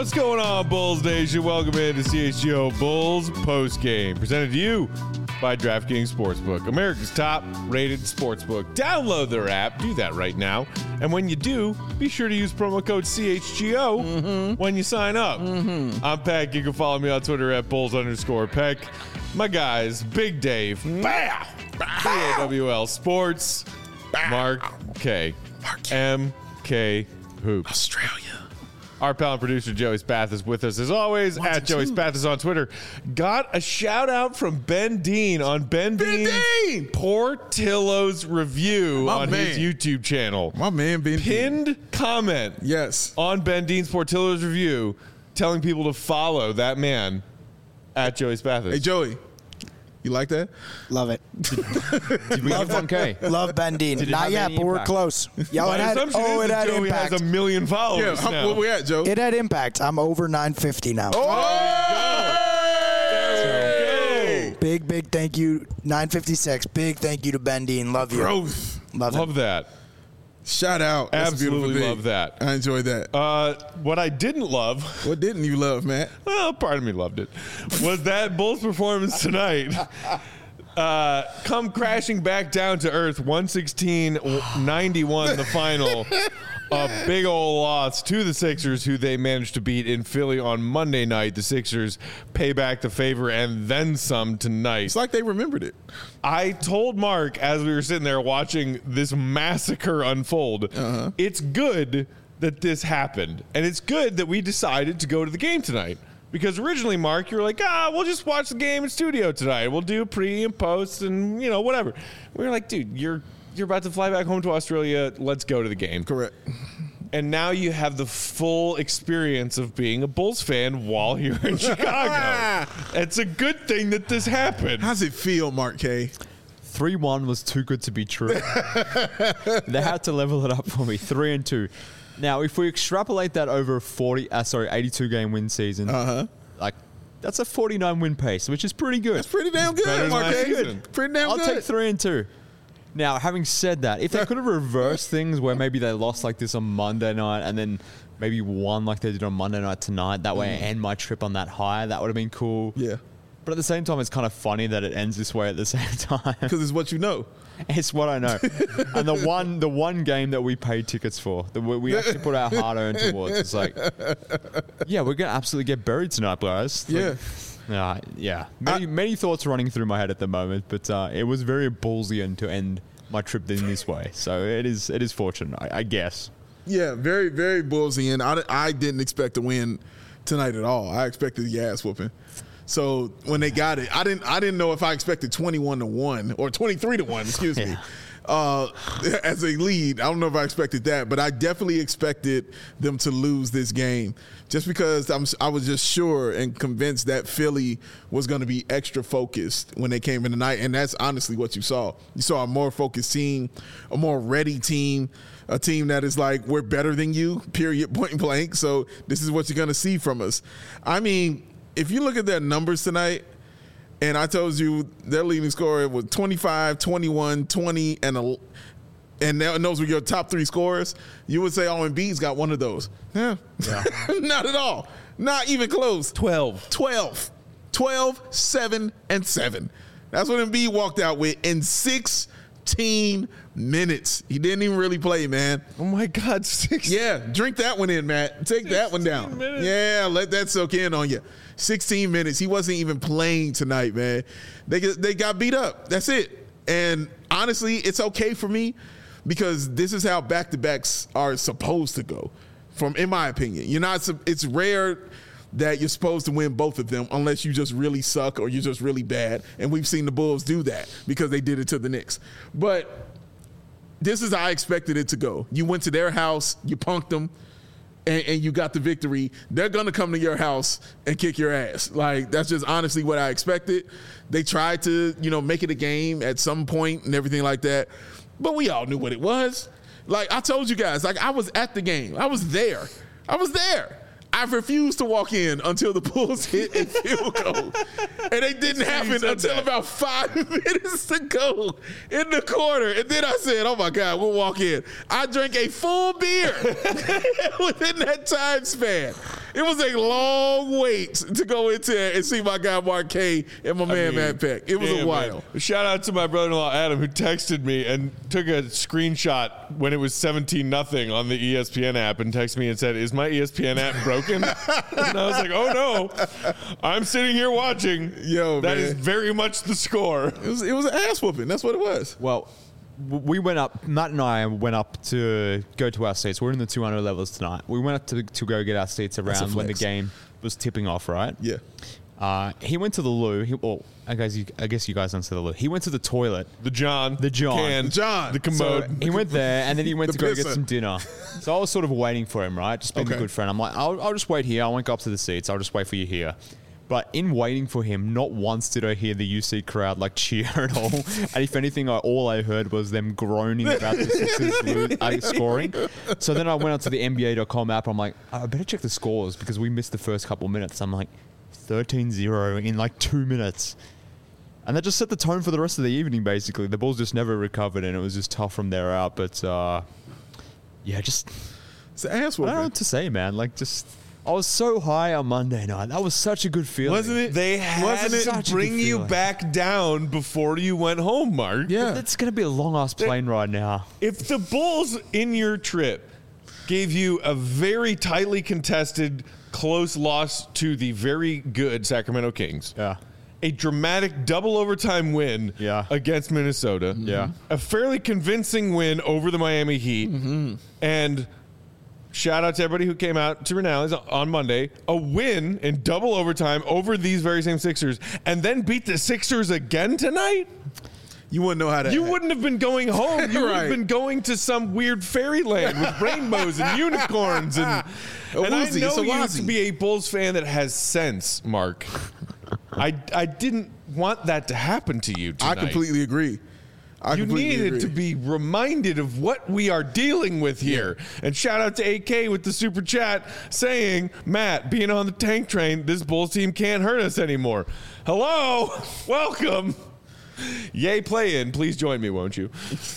What's going on, Bulls Nation? Welcome into CHGO Bulls Postgame, presented to you by DraftKings Sportsbook, America's top-rated sportsbook. Download their app. Do that right now. And when you do, be sure to use promo code CHGO when you sign up. I'm Peck. You can follow me on Twitter at Bulls_Peck. My guys, Big Dave, BAWL Sports, Mark K, MK Hoops. Australia. Our pal and producer Joey Spath is with us as always at Joey Spath is on Twitter. Got a shout out from Ben Dean on Ben Dean's Portillo's review on his YouTube channel. My man Ben Pinned Dean. comment on Ben Dean's Portillo's review telling people to follow that man at Joey Spath. Hey Joey, you like that? Love it. Did we have 1K? Love Ben Dean. Not yet, but we're close. Yo, it had Joey impact. has 1 million followers now. Where we at, Joe? It had impact. I'm over 950 now. Big thank you. 956. Big thank you to Ben Dean. Love you. Growth. Love that. Shout out. That's Absolutely love that. I enjoyed that. What I didn't love. What didn't you love, Matt? Well, part of me loved it. Was that Bulls performance tonight. Come crashing back down to earth. 116-91 the final. A big old loss to the Sixers, who they managed to beat in Philly on Monday night. The Sixers pay back the favor and then some tonight. It's like they remembered it. I told Mark as we were sitting there watching this massacre unfold, it's good that this happened. And it's good that we decided to go to the game tonight. Because originally, Mark, you were like, we'll just watch the game in studio tonight. We'll do pre and post and, whatever. We were like, dude, you're about to fly back home to Australia. Let's go to the game. Correct. And now you have the full experience of being a Bulls fan while you're in Chicago. It's a good thing that this happened. How's it feel, Mark K? 3-1 was too good to be true. They had to level it up for me. 3-2. Now, if we extrapolate that over 82 game win season, like that's a 49 win pace, which is pretty good. That's pretty damn good, Mark K. Pretty damn good. I'll take 3-2. Now, having said that, if they could have reversed things where maybe they lost like this on Monday night and then maybe won like they did on Monday night tonight, that way I end my trip on that high, that would have been cool. Yeah. But at the same time, it's kind of funny that it ends this way at the same time. Because it's what you know. It's what I know. And the one game that we paid tickets for, that we actually put our hard-earned towards, it's like, yeah, we're going to absolutely get buried tonight, guys. Yeah. Many thoughts running through my head at the moment, but it was very ballsy to end my trip in this way. So it is fortunate, I guess. Yeah, very, very ballsy. And I didn't expect to win tonight at all. I expected the ass whooping. So when they got it, I didn't know if I expected 21-1 or 23-1, excuse me, as a lead. I don't know if I expected that, but I definitely expected them to lose this game just because I was just sure and convinced that Philly was going to be extra focused when they came in tonight, and that's honestly what you saw. You saw a more focused team, a more ready team, a team that is like, we're better than you, period, point blank. So this is what you're going to see from us. I mean, if you look at their numbers tonight, and I told you their leading scorer was 25, 21, 20, and those were your top three scorers, you would say, Embiid's got one of those. Yeah. Not at all. Not even close. 12, 7, and 7. That's what Embiid walked out with in 16 minutes. He didn't even really play, man. Oh, my God, 16. Yeah, drink that one in, Matt. Take that one down. Minutes. Yeah, let that soak in on you. 16 minutes. He wasn't even playing tonight, man. They got beat up. That's it. And honestly, it's okay for me because this is how back-to-backs are supposed to go, in my opinion. It's rare that you're supposed to win both of them unless you just really suck or you're just really bad. And we've seen the Bulls do that because they did it to the Knicks. But this is how I expected it to go. You went to their house, you punked them, and you got the victory. They're going to come to your house and kick your ass. Like, that's just honestly what I expected. They tried to, make it a game at some point and everything like that. But we all knew what it was. Like, I told you guys, I was at the game. I was there. I refused to walk in until the Bulls hit a field goal. And it didn't happen until about 5 minutes to go in the quarter. And then I said, oh, my God, we'll walk in. I drank a full beer within that time span. It was a long wait to go into it and see my guy Marquet and my man Matt Peck. It was a while. Man. Shout out to my brother-in-law Adam, who texted me and took a screenshot when it was 17-0 on the ESPN app and texted me and said, "Is my ESPN app broken?" And I was like, "Oh no, I'm sitting here watching. Yo, that man. is very much the score." It was an ass whooping. That's what it was. Well, we went up. Matt and I went up to go to our seats. We're in the 200 levels tonight. We went up to go get our seats around when the game was tipping off. Right? Yeah. He went to the loo. I guess you guys don't say the loo. He went to the toilet. The John, the commode. So he went there, and then he went to go pisser. get some dinner. So I was sort of waiting for him, right? Just being a good friend. I'm like, I'll just wait here. I won't go up to the seats. I'll just wait for you here. But in waiting for him, not once did I hear the UC crowd like cheer at all. And if anything, all I heard was them groaning about the Sixers scoring. So then I went onto the NBA.com app. I'm like, I better check the scores because we missed the first couple minutes. I'm like, 13-0 in like 2 minutes. And that just set the tone for the rest of the evening, basically. The Bulls just never recovered, and it was just tough from there out. But, just... It's an ass whooping. I don't know what to say, man. Like, just... I was so high on Monday night. That was such a good feeling. Wasn't it? They had to bring you back down before you went home, Mark. Yeah. It's going to be a long-ass plane ride now. If the Bulls in your trip gave you a very tightly contested, close loss to the very good Sacramento Kings, a dramatic double overtime win against Minnesota, a fairly convincing win over the Miami Heat, and shout out to everybody who came out to Renales on Monday, a win in double overtime over these very same Sixers, and then beat the Sixers again tonight? You wouldn't know how to. You wouldn't have been going home. You would have been going to some weird fairyland with rainbows and unicorns. And I know you to be a Bulls fan that has sense, Mark. I didn't want that to happen to you tonight. I completely agree. You needed to be reminded of what we are dealing with here. And shout out to AK with the super chat saying, Matt, being on the tank train, this Bulls team can't hurt us anymore. Hello. Welcome. Yay, play in. Please join me, won't you?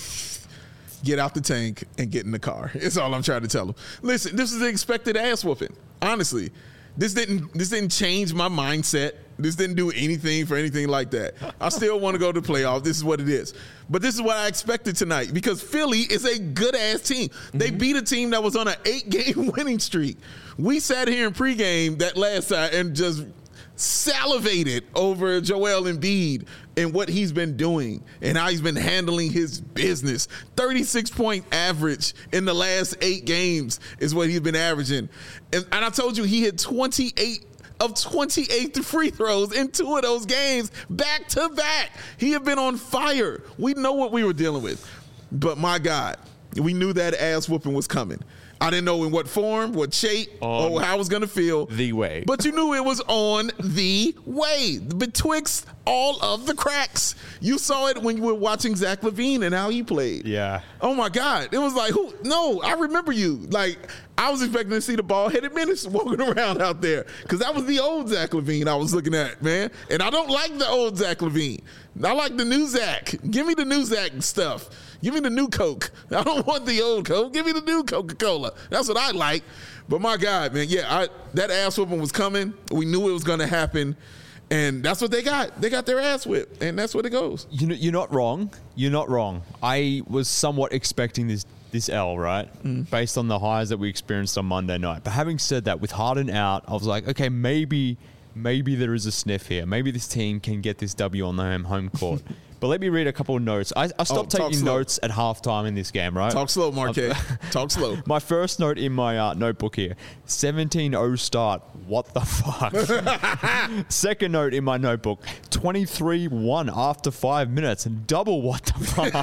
Get out the tank and get in the car. It's all I'm trying to tell them. Listen, this is the expected ass whooping. Honestly, this didn't change my mindset. This didn't do anything for anything like that. I still want to go to the playoffs. This is what it is. But this is what I expected tonight because Philly is a good-ass team. They beat a team that was on an 8-game winning streak. We sat here in pregame that last time and just salivated over Joel Embiid and what he's been doing and how he's been handling his business. 36-point average in the last 8 games is what he's been averaging. And I told you he hit 28 of 28 free throws in 2 of those games back to back. He had been on fire. We know what we were dealing with. But my God, we knew that ass whooping was coming. I didn't know in what form, what shape, or how I was going to feel. The way. But you knew it was on the way, betwixt all of the cracks. You saw it when you were watching Zach LaVine and how he played. Yeah. Oh, my God. It was like, no, I remember you. Like, I was expecting to see the ball-headed menace walking around out there because that was the old Zach LaVine I was looking at, man. And I don't like the old Zach LaVine. I like the new Zach. Give me the new Zach stuff. Give me the new Coke. I don't want the old Coke. Give me the new Coca-Cola. That's what I like. But my God, man, that ass whooping was coming. We knew it was going to happen. And that's what they got. They got their ass whipped. And that's what it goes. You're not wrong. You're not wrong. I was somewhat expecting this L, right? Based on the highs that we experienced on Monday night. But having said that, with Harden out, I was like, okay, maybe there is a sniff here. Maybe this team can get this W on the home court. But let me read a couple of notes. I stopped taking notes at halftime in this game, right? Talk slow, Marquet. Talk slow. My first note in my notebook here, 17-0 start. What the fuck? Second note in my notebook, 23-1 after 5 minutes. Double what the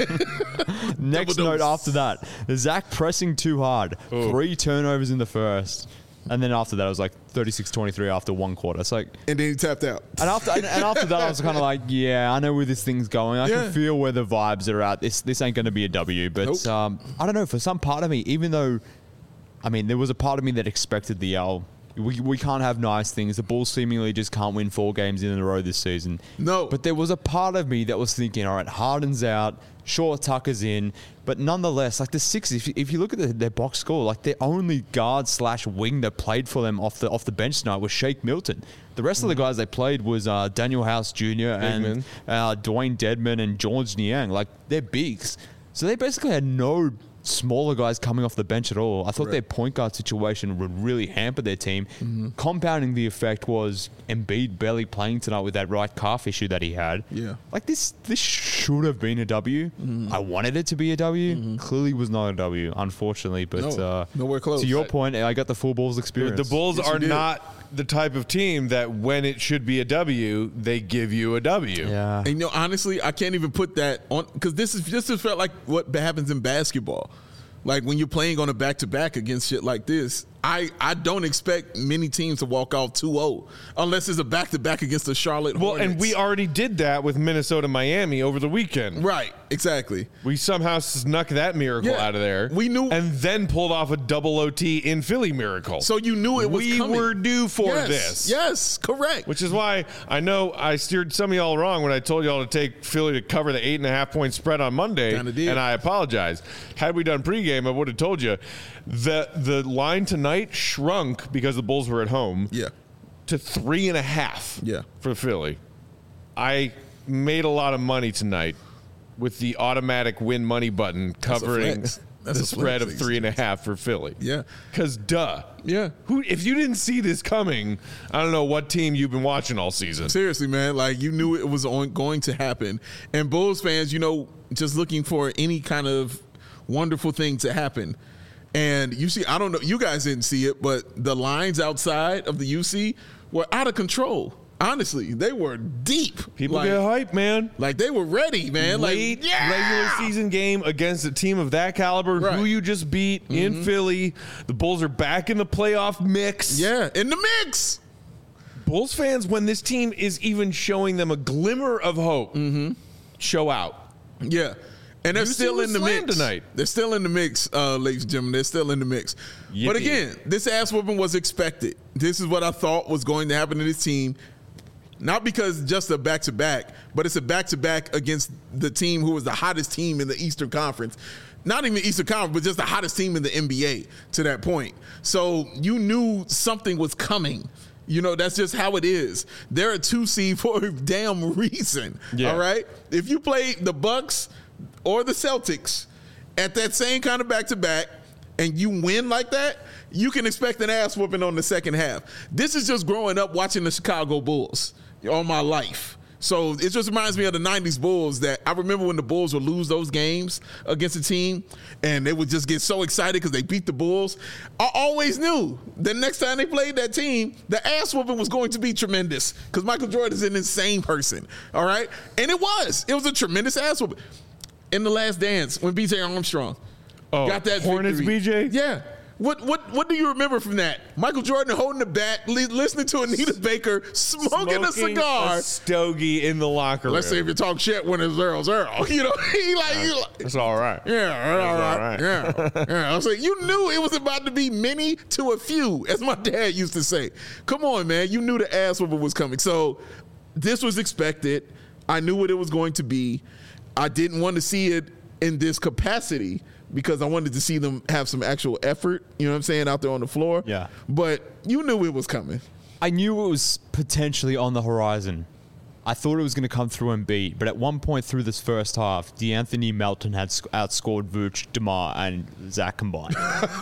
fuck? Next note after that, Zach pressing too hard. 3 turnovers in the first. And then after that, it was like 36-23 after 1 quarter. It's like, and then he tapped out. And after that, I was kind of like, yeah, I know where this thing's going. I can feel where the vibes are at. This ain't going to be a W. But I don't know. For some part of me, even though, I mean, there was a part of me that expected the L we can't have nice things. The Bulls seemingly just can't win 4 games in a row this season. No. But there was a part of me that was thinking, all right, Harden's out, sure, Tucker's in, but nonetheless, like the Sixers, if you look at their box score, like their only guard/wing that played for them off the bench tonight was Shake Milton. The rest of the guys they played was Daniel House Jr. and Dwayne Dedman and George Niang. Like, they're bigs. So they basically had no smaller guys coming off the bench at all. I thought their point guard situation would really hamper their team. Compounding the effect was Embiid barely playing tonight with that right calf issue that he had. Yeah. Like, this should have been a W. I wanted it to be a W. Clearly was not a W, unfortunately. But nowhere close. To your point, I got the full Bulls experience. The Bulls are not the type of team that when it should be a W, they give you a W. Yeah. And, you know, honestly, I can't even put that on because this has felt like what happens in basketball. Like when you're playing on a back-to-back against shit like this, I don't expect many teams to walk off 2-0 unless it's a back-to-back against the Charlotte Hornets. Well, and we already did that with Minnesota-Miami over the weekend. Right, exactly. We somehow snuck that miracle out of there. We knew. And then pulled off a double OT in Philly miracle. So you knew it was coming. We were due for this. Yes, correct. Which is why I know I steered some of y'all wrong when I told y'all to take Philly to cover the 8.5-point spread on Monday. Kinda did. And I apologize. Had we done pregame, I would have told you the line tonight shrunk because the Bulls were at home. Yeah. To 3.5. Yeah. For Philly. I made a lot of money tonight with the automatic win money button covering the spread of 3.5 for Philly. Yeah. Because duh. Yeah. If you didn't see this coming, I don't know what team you've been watching all season. Seriously, man, like you knew it was going to happen. And Bulls fans, you know, just looking for any kind of wonderful thing to happen. And you see, I don't know, you guys didn't see it, but the lines outside of the UC were out of control. Honestly, they were deep. People get hype, man. Like they were ready, man. Late like regular season game against a team of that caliber, who you just beat in Philly. The Bulls are back in the playoff mix. Yeah, in the mix. Bulls fans, when this team is even showing them a glimmer of hope, show out. Yeah. And they're UC still in the slammed mix tonight. They're still in the mix, ladies and gentlemen. They're still in the mix. Yippee. But again, this ass whooping was expected. This is what I thought was going to happen to this team. Not because just a back-to-back, but it's a back-to-back against the team who was the hottest team in the Eastern Conference. Not even the Eastern Conference, but just the hottest team in the NBA to that point. So you knew something was coming. You know, that's just how it is. They're a 2 seed for a damn reason. Yeah. All right? If you play the Bucks or the Celtics at that same kind of back-to-back and you win like that, you can expect an ass whooping on the second half. This is just growing up watching the Chicago Bulls all my life. So it just reminds me of the 90s Bulls that I remember when the Bulls would lose those games against a team and they would just get so excited because they beat the Bulls. I always knew the next time they played that team, the ass whooping was going to be tremendous because Michael Jordan is an insane person. All right? And it was. It was a tremendous ass whooping. In The Last Dance, when B.J. Armstrong got that Hornets victory. B.J.? Yeah. What do you remember from that? Michael Jordan holding the bat, listening to Anita Baker, smoking a cigar. A stogie in the locker room. Let's say if you talk shit when it's Earl. You know, he like It's all right. yeah, all right. Yeah. I was like, you knew it was about to be many to a few, as my dad used to say. Come on, man. You knew the ass whooping was coming. So this was expected. I knew what it was going to be. I didn't want to see it in this capacity because I wanted to see them have some actual effort, you know what I'm saying, out there on the floor. Yeah. But you knew it was coming. I knew it was potentially on the horizon. I thought it was going to come through and beat, but at one point through this first half, DeAnthony Melton had outscored Vooch, DeMar, and Zach combined.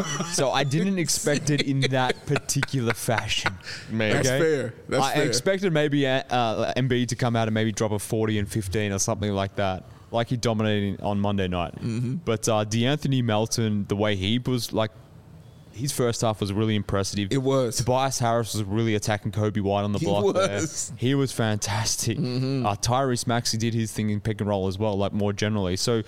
So I didn't expect it in that particular fashion. Man. That's fair. That's I fair. expected maybe Embiid to come out and maybe drop a 40 and 15 or something like that, like he dominated on Monday night. But DeAnthony Melton, the way he was, like, his first half was really impressive. It was. Tobias Harris was really attacking Kobe White on the block there. He was fantastic. Tyrese Maxey did his thing in pick and roll as well, like more generally. So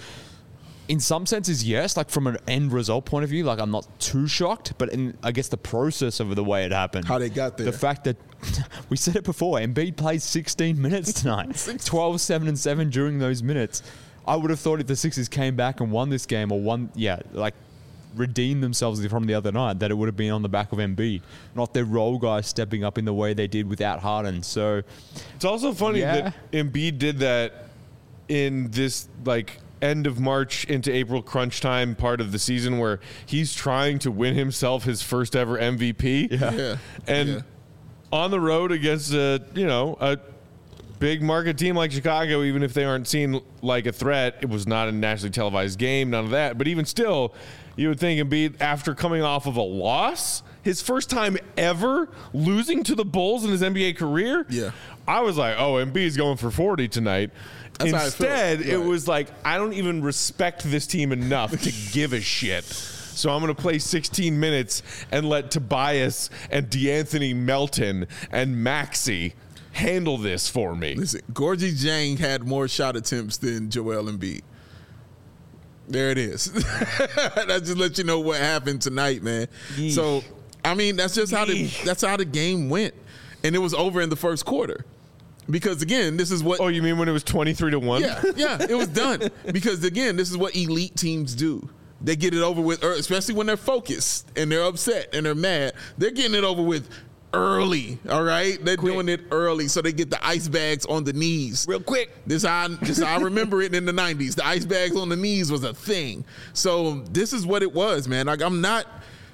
in some senses, yes, like from an end result point of view, like I'm not too shocked, but in, I guess the process of the way it happened. How they got there. The fact that, we said it before, Embiid played 16 minutes tonight. 12, 7, and 7 during those minutes. I would have thought if the Sixers came back and won this game or won, redeemed themselves from the other night, that it would have been on the back of Embiid, not their role guys stepping up in the way they did without Harden. So it's also funny that Embiid did that in this end of March into April crunch time part of the season where he's trying to win himself his first ever MVP. And on the road against a big market team like Chicago, even if they aren't seen like a threat, it was not a nationally televised game, none of that. But even still, you would think Embiid, after coming off of a loss, his first time ever losing to the Bulls in his NBA career, I was like, oh, Embiid's going for 40 tonight. That's Instead, it was like, I don't even respect this team enough to give a shit. So I'm going to play 16 minutes and let Tobias and DeAnthony Melton and Maxey handle this for me. Listen, Gorgie Jang had more shot attempts than Joel Embiid. There it is. That just let you know what happened tonight, man. Yeesh. So, I mean, that's just how the game went. And it was over in the first quarter. Because, again, this is what... Oh, you mean when it was 23-1? Yeah, it was done. Because, again, this is what elite teams do. They get it over with, especially when they're focused and they're upset and they're mad. They're getting it over with early, all right? They're doing it early so they get the ice bags on the knees. Real quick. This how I remember it in the 90s. The ice bags on the knees was a thing. So this is what it was, man. Like, I'm not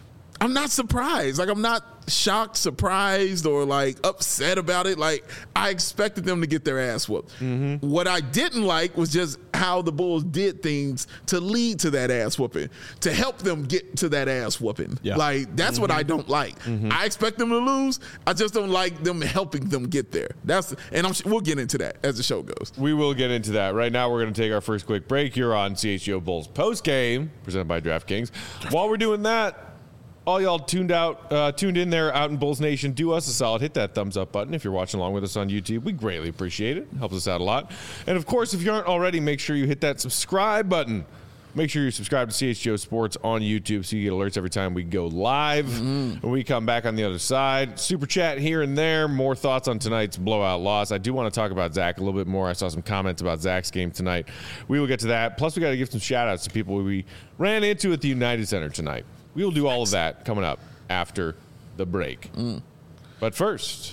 surprised. Like, I'm not shocked, surprised, or like upset about it. Like, I expected them to get their ass whooped. Mm-hmm. What I didn't like was just how the Bulls did things to lead to that ass whooping, to help them get to that ass whooping. Yeah. Like, that's what I don't like. Mm-hmm. I expect them to lose. I just don't like them helping them get there. We'll get into that as the show goes. We will get into that. Right now, we're going to take our first quick break here on CHGO Bulls Post Game, presented by DraftKings. While we're doing that, all y'all tuned in there out in Bulls Nation, do us a solid. Hit that thumbs up button if you're watching along with us on YouTube. We greatly appreciate it. Helps us out a lot. And, of course, if you aren't already, make sure you hit that subscribe button. Make sure you subscribe to CHGO Sports on YouTube so you get alerts every time we go live. Mm-hmm. When we come back on the other side, super chat here and there. More thoughts on tonight's blowout loss. I do want to talk about Zach a little bit more. I saw some comments about Zach's game tonight. We will get to that. Plus, we got to give some shout-outs to people we ran into at the United Center tonight. We will do all of that coming up after the break. But first,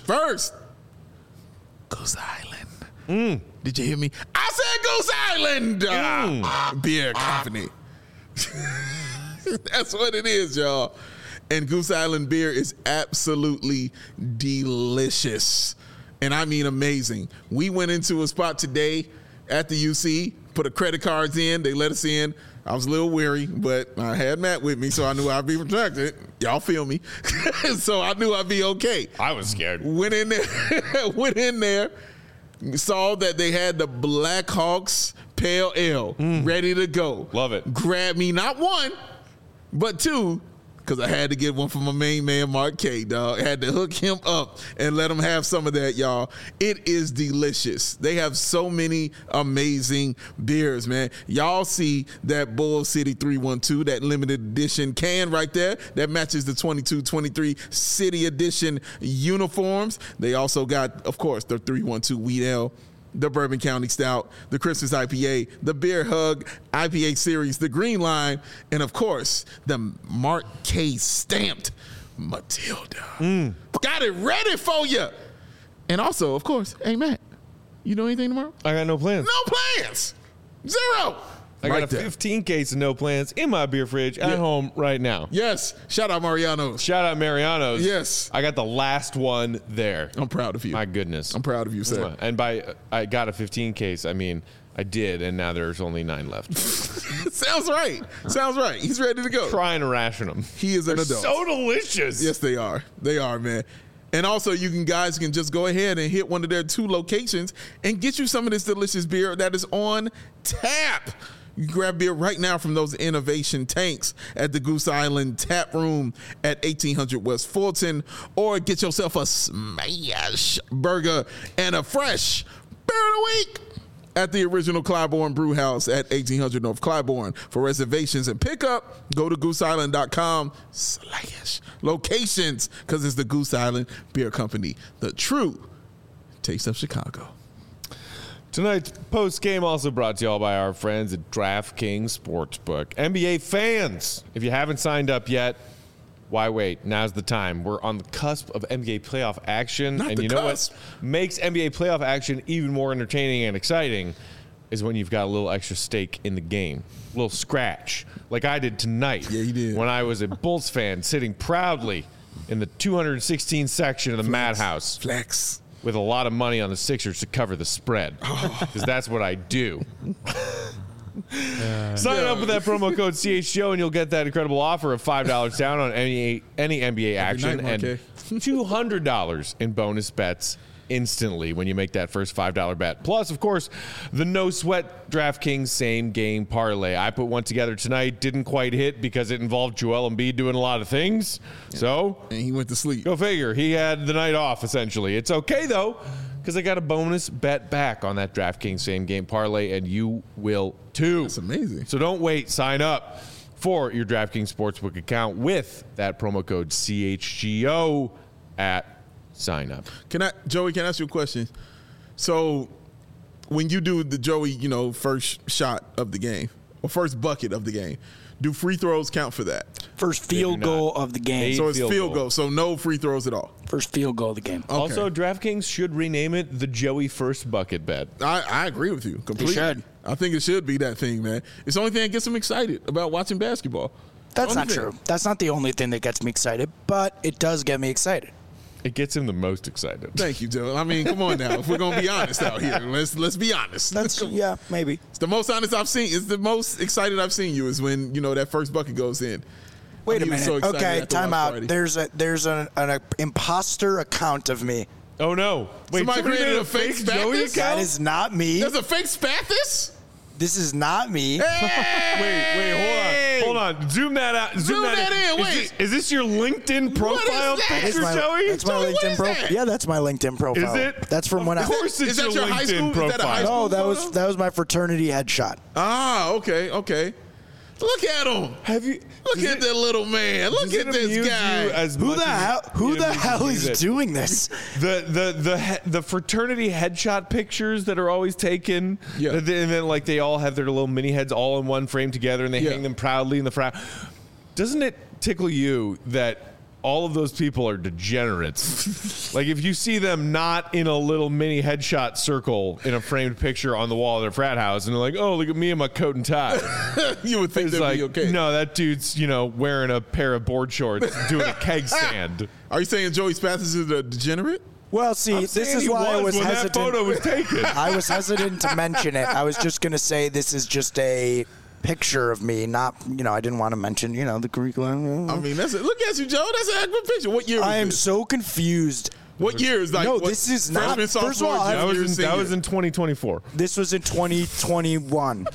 Goose Island. Did you hear me? I said Goose Island Beer Company. That's what it is, y'all. And Goose Island beer is absolutely delicious. And I mean amazing. We went into a spot today at the UC, put a credit cards in. They let us in. I was a little weary, but I had Matt with me, so I knew I'd be protected. Y'all feel me? So I knew I'd be okay. I was scared. Went in there, saw that they had the Black Hawks Pale Ale ready to go. Love it. Grabbed me not one, but two, because I had to get one for my main man, Mark K, dog. I had to hook him up and let him have some of that, y'all. It is delicious. They have so many amazing beers, man. Y'all see that Bull City 312, that limited edition can right there that matches the 22-23 City Edition uniforms. They also got, of course, the 312 Wheat Ale, the Bourbon County Stout, the Christmas IPA, the Beer Hug IPA Series, the Green Line, and, of course, the Mark K stamped Matilda. Got it ready for you. And also, of course, hey, Matt, you do anything tomorrow? I got no plans. No plans. Zero. I got a 15 case of no plans in my beer fridge at home right now. Yes. Shout out Mariano's. Yes. I got the last one there. I'm proud of you. My goodness. I'm proud of you, sir. And I got a 15 case, I mean, I did, and now there's only 9 left. Sounds right. He's ready to go. Trying to ration them. He is an adult. So delicious. Yes, they are. They are, man. And also, you guys can just go ahead and hit one of their 2 locations and get you some of this delicious beer that is on tap. You can grab beer right now from those innovation tanks at the Goose Island Tap Room at 1800 West Fulton, or get yourself a smash burger and a fresh beer of the week at the original Clybourne Brew House at 1800 North Clybourne. For reservations and pickup, go to gooseisland.com/locations, because it's the Goose Island Beer Company, the true taste of Chicago. Tonight's post game also brought to you all by our friends at DraftKings Sportsbook. NBA fans, if you haven't signed up yet, why wait? Now's the time. We're on the cusp of NBA playoff action. Not and the you know cusp. what makes NBA playoff action even more entertaining and exciting is when you've got a little extra stake in the game. A little scratch, like I did tonight. Yeah, you did. When I was a Bulls fan sitting proudly in the 216 section of the Madhouse Flex. with a lot of money on the Sixers to cover the spread. Because that's what I do. Sign up with that promo code CHGO and you'll get that incredible offer of $5 down on any NBA action night, and $200 in bonus bets instantly when you make that first $5 bet. Plus, of course, the no sweat DraftKings same game parlay. I put one together tonight, didn't quite hit because it involved Joel Embiid doing a lot of things. So, And he went to sleep. go figure. He had the night off, essentially. It's okay, though, because I got a bonus bet back on that DraftKings same game parlay, and you will too. That's amazing. So don't wait. Sign up for your DraftKings Sportsbook account with that promo code CHGO at sign up. Joey, can I ask you a question? So when you do the Joey, first shot of the game or first bucket of the game, do free throws count for that? First do field not. goal of the game. Eight So it's field field goal. goal. So no free throws at all. First field goal of the game. Okay. Also, DraftKings should rename it the Joey First Bucket Bet. I agree with you completely. should. I think it should be that thing, man. It's the only thing that gets them excited about watching basketball. That's Only not thing. true. That's not the only thing that gets me excited, but it does get me excited. It gets him the most excited. Thank you, Joe. I mean, come on now. If we're gonna be honest out here, let's be honest. That's yeah, maybe. It's the most honest I've seen. It's the most excited I've seen you is when that first bucket goes in. Wait a He was minute. so excited Okay, at the time watch out. party. There's an imposter account of me. Oh, no. Wait, Somebody created made a fake Joey Spathis? account? That is not me. There's a fake Spathis? This is not me. Wait, hold on. Zoom that out. Zoom that in. Is Wait. this- Is this your LinkedIn profile that? picture, That's Joey? That's my Joey, what LinkedIn is profile. that? Yeah, that's my LinkedIn profile. Is it? That's from when I. Of course it's Is that your your high LinkedIn school? Is profile. that a high No, school that photo? was my fraternity headshot. Ah, okay. Look at him. Have you? Look at that little man. Look does at it this amuse guy. you as Who much the as hell? it Who the amuses hell me is that doing this? the fraternity headshot pictures that are always taken, Yeah. and then like they all have their little mini heads all in one frame together, and they Yeah. hang them proudly in the front. Doesn't it tickle you that all of those people are degenerates? Like if you see them not in a little mini headshot circle in a framed picture on the wall of their frat house, and they're like, "Oh, look at me in my coat and tie." You would think It's that'd like, be okay. no, that dude's wearing a pair of board shorts, doing a keg stand. Are you saying Joey Spathis is a degenerate? Well, see, this Saying is he why I was when hesitant. that photo was taken. I was hesitant to mention it. I was just going to say this is just a picture of me, not, I didn't want to mention, the curriculum. I mean, that's it. Look at you, Joe. That's an accurate picture. What year was I am this? so confused. What year is like? No, what, this is not- freshman, first of all, sophomore, I- That junior, was senior? in 2024. This was in 2021.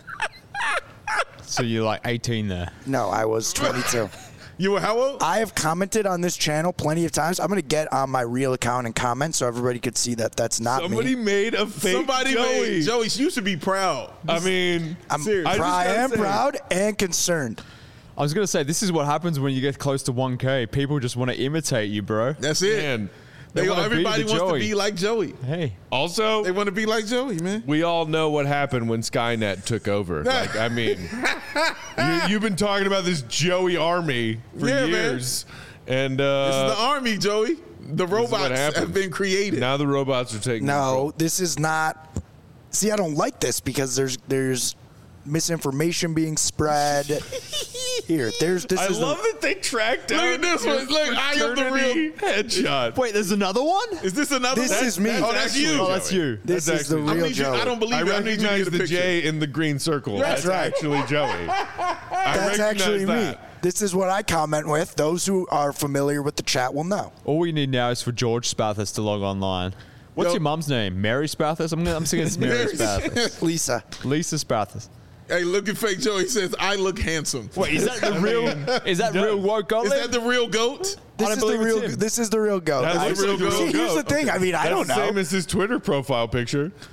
So you're like 18 there. No, I was 22. You were how old? I have commented on this channel plenty of times. I'm going to get on my real account and comment so everybody could see that that's not Somebody me. made a fake Somebody Joey. made Joey. You should be proud. I mean, I'm Serious. I just I gotta am say- proud and concerned. I was going to say, this is what happens when you get close to 1K. People just want to imitate you, bro. That's it. Man, They wanna be everybody the wants to Joey. be like Joey. Hey. also, They want to be like Joey, man. we all know what happened when Skynet took over. Like, I mean, you've been talking about this Joey army for Yeah, man. years. And This is the army, Joey. The what robots happens. have been created. now the robots are taking control. No, this is not. See, I don't like this because there's misinformation being spread. Here, this I is love that they tracked down. Look at this your one. Look, I am the fraternity real- headshot. Wait, there's another one? Is this another This one? is me. Oh, that's actually you. Oh, that's you. This That's is the actually- real I, need you, Joey. I don't believe I it. I need you to recognize get a the picture. J in the green circle. That's right. actually Joey. That's actually me. that. This is what I comment with. Those who are familiar with the chat will know. All we need now is for George Spathis to log online. What's Yo. your mum's name? Mary Spathis? I'm thinking it's Mary Mary Spathis. Lisa. Lisa Spathis. Hey, look at fake Joey. He says, I look handsome. Wait, is that the real? Is that real woke goat? Is that the real goat? This don't is the believe it's real. him. This is the real goat. That's I- the real See, goat. here's the thing. I mean, I That's don't the same know. as his Twitter profile picture.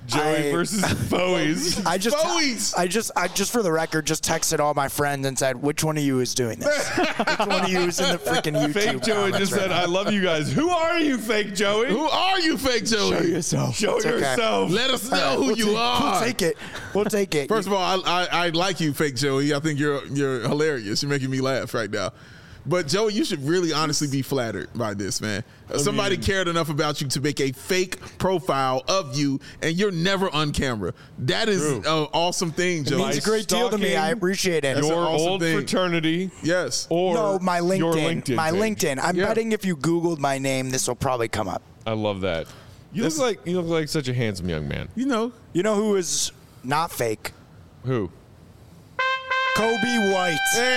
Joey versus Foey's. I Foey's. just for the record, just texted all my friends and said, which one of you is doing this? Which one of you is in the freaking YouTube? Fake Joey just said, I love you guys. Who are you, Fake Joey? Who are you, Fake Joey? Show yourself. Show yourself. Let us know who you are. We'll take it. First of all, I like you, Fake Joey. I think you're hilarious. You're making me laugh right now. But Joey, you should really honestly be flattered by this, man. Somebody cared enough about you to make a fake profile of you, and you're never on camera. That is an awesome thing, Joey. It means a great deal to me. I appreciate it. Your awesome old thing. fraternity. Yes. Or no, my LinkedIn. Your LinkedIn my page. LinkedIn. I'm betting if you Googled my name, this will probably come up. I love that. You look like such a handsome young man. You know who is not fake? Who? Kobe White.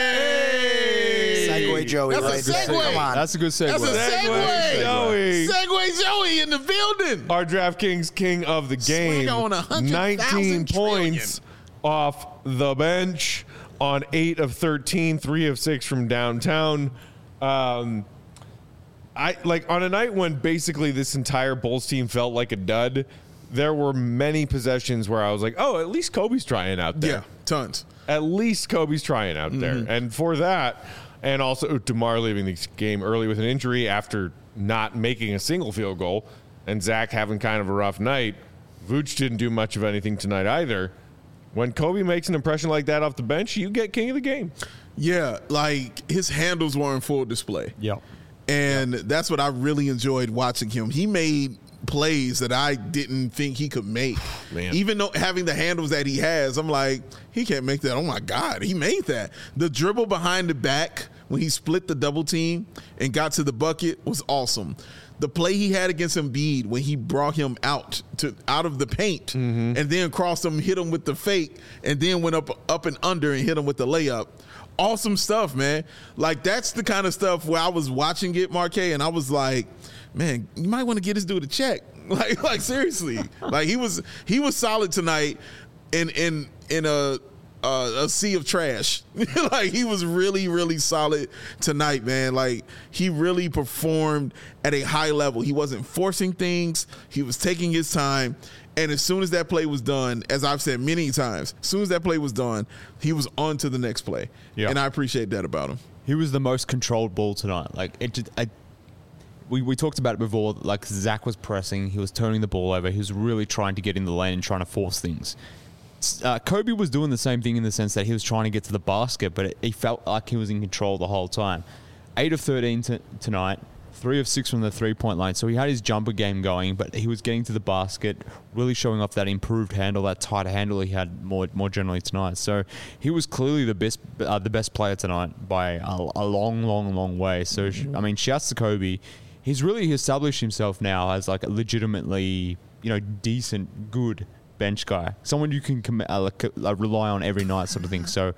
Hey! Segue Joey. That's a right segue. there. Come on. That's a good segue. That's a Segue, Joey. Segue Joey in the building. Our DraftKings king of the game. Swing on 100,000 19 trillion. points off the bench on 8 of 13, 3 of 6 from downtown. I like on a night when basically this entire Bulls team felt like a dud. There were many possessions where I was like, "Oh, at least Kobe's trying out there." Yeah, tons. At least Kobe's trying out there. And for that, and also DeMar leaving the game early with an injury after not making a single field goal, and Zach having kind of a rough night, Vooch didn't do much of anything tonight either. When Kobe makes an impression like that off the bench, you get king of the game. Yeah, like his handles were in full display. Yep. And that's what I really enjoyed watching him. He made plays that I didn't think he could make. Man. Even though having the handles that he has, I'm like, he can't make that. Oh my God, he made that. The dribble behind the back when he split the double team and got to the bucket was awesome. The play he had against Embiid when he brought him out of the paint and then crossed him, hit him with the fake, and then went up and under and hit him with the layup. Awesome stuff, man. Like, that's the kind of stuff where I was watching it, Marquet, and I was like, man, you might want to get this dude a check. Like seriously. Like he was solid tonight in a sea of trash. Like he was really, really solid tonight, man. Like he really performed at a high level. He wasn't forcing things. He was taking his time. And as soon as that play was done, as I've said many times, as soon as that play was done, he was on to the next play. Yeah. And I appreciate that about him. He was the most controlled ball tonight. Like we talked about it before. Like Zach was pressing, he was turning the ball over. He was really trying to get in the lane and trying to force things. Kobe was doing the same thing in the sense that he was trying to get to the basket, but he felt like he was in control the whole time. 8 of 13 tonight, 3 of 6 from the three-point line. So he had his jumper game going, but he was getting to the basket, really showing off that improved handle, that tighter handle he had more generally tonight. So he was clearly the best player tonight by a long way. So I mean, shouts to Kobe. He's really established himself now as like a legitimately, decent, good bench guy, someone you can rely on every night, sort of thing. So,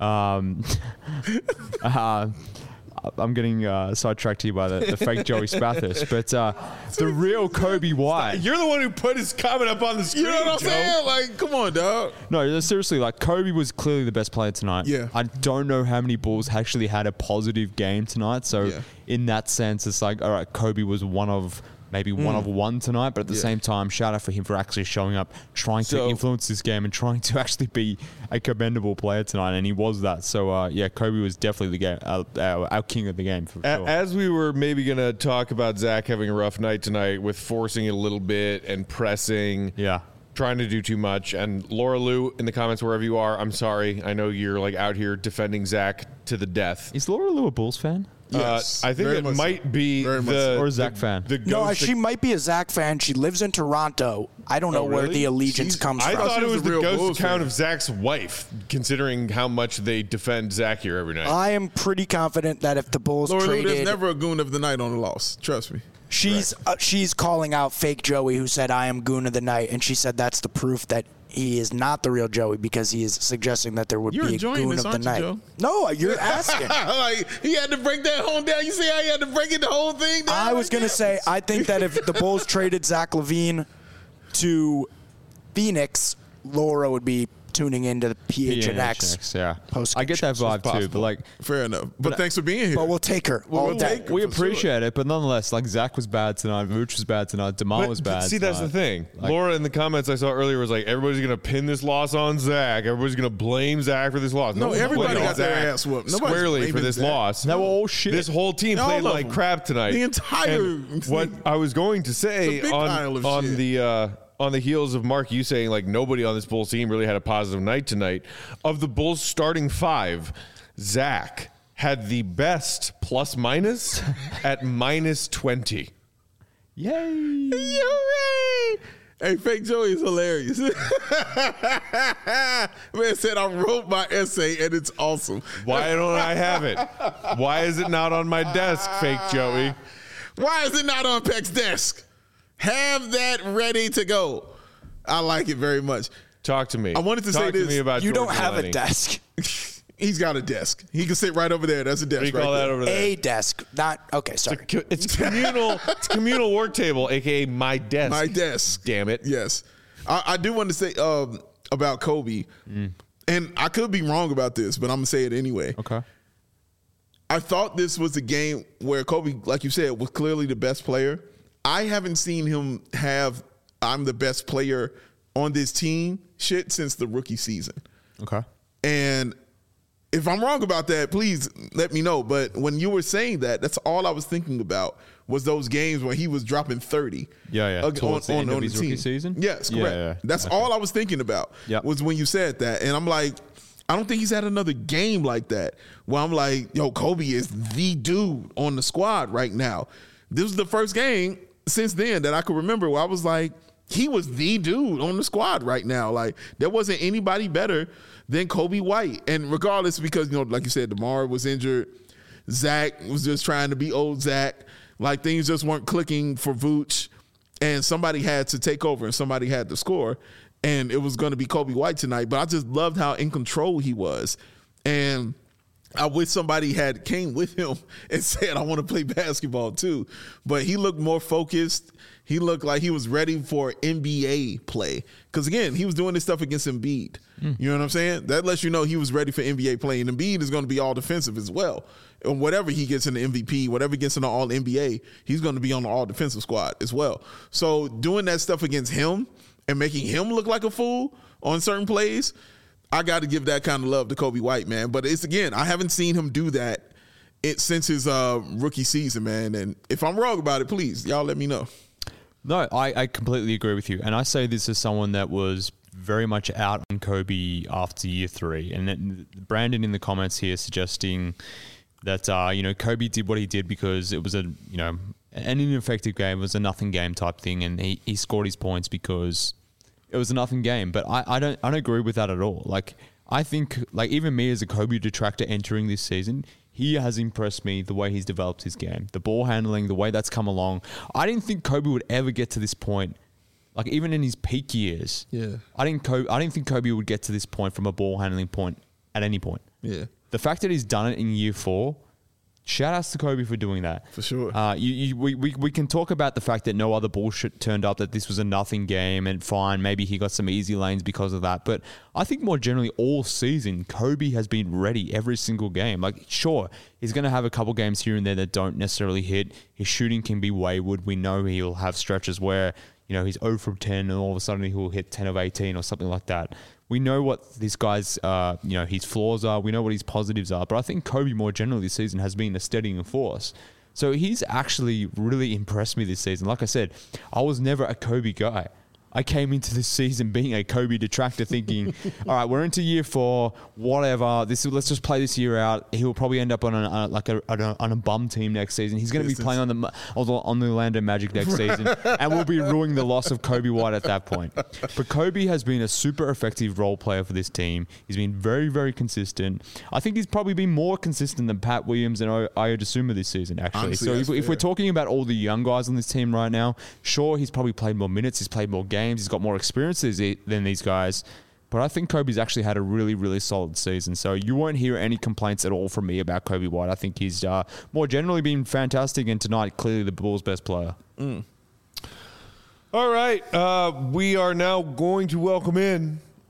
I'm getting sidetracked here by the fake Joey Spathis, but the real Kobe White. You're the one who put his comment up on the screen. You know what I'm saying? Like, come on, dog. No, seriously, like Kobe was clearly the best player tonight. Yeah. I don't know how many Bulls actually had a positive game tonight. So in that sense, it's like, all right, Kobe was one of one tonight, but at the same time, shout out for him for actually showing up, trying to influence this game and trying to actually be a commendable player tonight, and he was that. So, Kobe was definitely the game, our king of the game for sure. As we were maybe going to talk about Zach having a rough night tonight with forcing it a little bit and pressing. Yeah. Trying to do too much. And Laura Lou, in the comments wherever you are, I'm sorry. I know you're like out here defending Zach to the death. Is Laura Lou a Bulls fan? Yes, I think very it much might so. be Very much the so. Or a Zach fan. No, she might be a Zach fan. She lives in Toronto. I don't know where really? the allegiance comes I from. thought it was a the real ghost Bulls account fan. of Zach's wife, considering how much they defend Zach here every night. I am pretty confident that if the Bulls Laura Lou, there's traded, never a goon of the night on the loss. Trust me. she's calling out fake Joey, who said I am goon of the night, and she said that's the proof that he is not the real Joey because he is suggesting that there would You're be a enjoying goon this, of the aren't you, night. Joe? No, you're asking. Like, he had to break that whole down. You see how he had to break it the whole thing down? I was going to say, I think that if the Bulls traded Zach LaVine to Phoenix, Laura would be tuning into the PHNX. Yeah, post. I get that vibe too, but like, fair enough. But thanks for being here. But we'll take her. We'll take her we for appreciate sure. it, but nonetheless, like Zach was bad tonight, Vooch was bad tonight, DeMar was bad. See, that's the tonight. thing. Like- Laura in the comments I saw earlier was like, everybody's going to pin this loss on Zach. Everybody's going to blame Zach for this loss. No, one's everybody blaming got their Zach ass whooped. Nobody's squarely for blaming this Zach. loss. They were all shit. This whole team All played of like them. crap tonight. The entire And what I was going to say It's a big pile of on shit. on the heels of Mark, you saying like nobody on this Bulls team really had a positive night tonight. Of the Bulls starting five, Zach had the best plus minus at minus 20. Yay! You're right. Hey, Fake Joey is hilarious. Man said I wrote my essay and it's awesome. Why don't I have it? Why is it not on my desk, Fake Joey? Why is it not on Peck's desk? Have that ready to go. I like it very much. Talk to me. I wanted to Talk say to this. me about You George don't have Delaney. a desk. He's got a desk. He can sit right over there. That's a desk. What do you call right that there. over there? A desk. Not okay. Sorry. It's communal. It's communal work table, aka my desk. My desk. Damn it. Yes. I do want to say about Kobe, and I could be wrong about this, but I'm going to say it anyway. Okay. I thought this was a game where Kobe, like you said, was clearly the best player. I haven't seen him have I'm the best player on this team shit since the rookie season. Okay. And if I'm wrong about that, please let me know. But when you were saying that, that's all I was thinking about was those games where he was dropping 30. Yeah. Towards the end of his the rookie team. season? Yes, correct. Yeah. That's all I was thinking about was when you said that. And I'm like, I don't think he's had another game like that where I'm like, yo, Kobe is the dude on the squad right now. This was the first game since then that I could remember where I was like, he was the dude on the squad right now. Like, there wasn't anybody better than Kobe White. And regardless, because, you know, like you said, DeMar was injured. Zach was just trying to be old Zach. Like, things just weren't clicking for Vooch. And somebody had to take over and somebody had to score. And it was going to be Kobe White tonight. But I just loved how in control he was. And I wish somebody had came with him and said, I want to play basketball too. But he looked more focused. He looked like he was ready for NBA play. Because, again, he was doing this stuff against Embiid. You know what I'm saying? That lets you know he was ready for NBA play. And Embiid is going to be all defensive as well. And whatever he gets in the MVP, whatever he gets in the All-NBA, he's going to be on the all-defensive squad as well. So doing that stuff against him and making him look like a fool on certain plays, I got to give that kind of love to Kobe White, man. But it's, again, I haven't seen him do that since his rookie season, man. And if I'm wrong about it, please, y'all let me know. No, I completely agree with you. And I say this as someone that was very much out on Kobe after year 3. And then Brandon in the comments here suggesting that, Kobe did what he did because it was an ineffective game. It was a nothing game type thing. And he scored his points because it was a nothing game. But I don't agree with that at all. Like, I think, like, even me as a Kobe detractor entering this season, he has impressed me the way he's developed his game, the ball handling, the way that's come along. I didn't think Kobe would ever get to this point, like even in his peak years. Yeah. I didn't think Kobe would get to this point from a ball handling point at any point. Yeah. The fact that he's done it in year 4, shout outs to Kobe for doing that. For sure. We can talk about the fact that no other bullshit turned up, that this was a nothing game, and fine, maybe he got some easy lanes because of that. But I think more generally all season, Kobe has been ready every single game. Like, sure, he's going to have a couple games here and there that don't necessarily hit. His shooting can be wayward. We know he'll have stretches where, he's 0 from 10 and all of a sudden he'll hit 10 of 18 or something like that. We know what this guy's, his flaws are. We know what his positives are. But I think Kobe more generally this season has been a steadying force. So he's actually really impressed me this season. Like I said, I was never a Kobe guy. I came into this season being a Kobe detractor thinking, all right, we're into year 4, whatever. Let's just play this year out. He'll probably end up on a bum team next season. He's going to be playing on the Orlando Magic next season, and we'll be ruining the loss of Kobe White at that point. But Kobe has been a super effective role player for this team. He's been very, very consistent. I think he's probably been more consistent than Pat Williams and Ayo Dosunmu this season, actually. Honestly, so if we're talking about all the young guys on this team right now, sure, he's probably played more minutes. He's played more games. He's got more experience than these guys. But I think Kobe's actually had a really, really solid season. So you won't hear any complaints at all from me about Kobe White. I think he's more generally been fantastic, and tonight, clearly the Bulls' best player. All right. We are now going to welcome in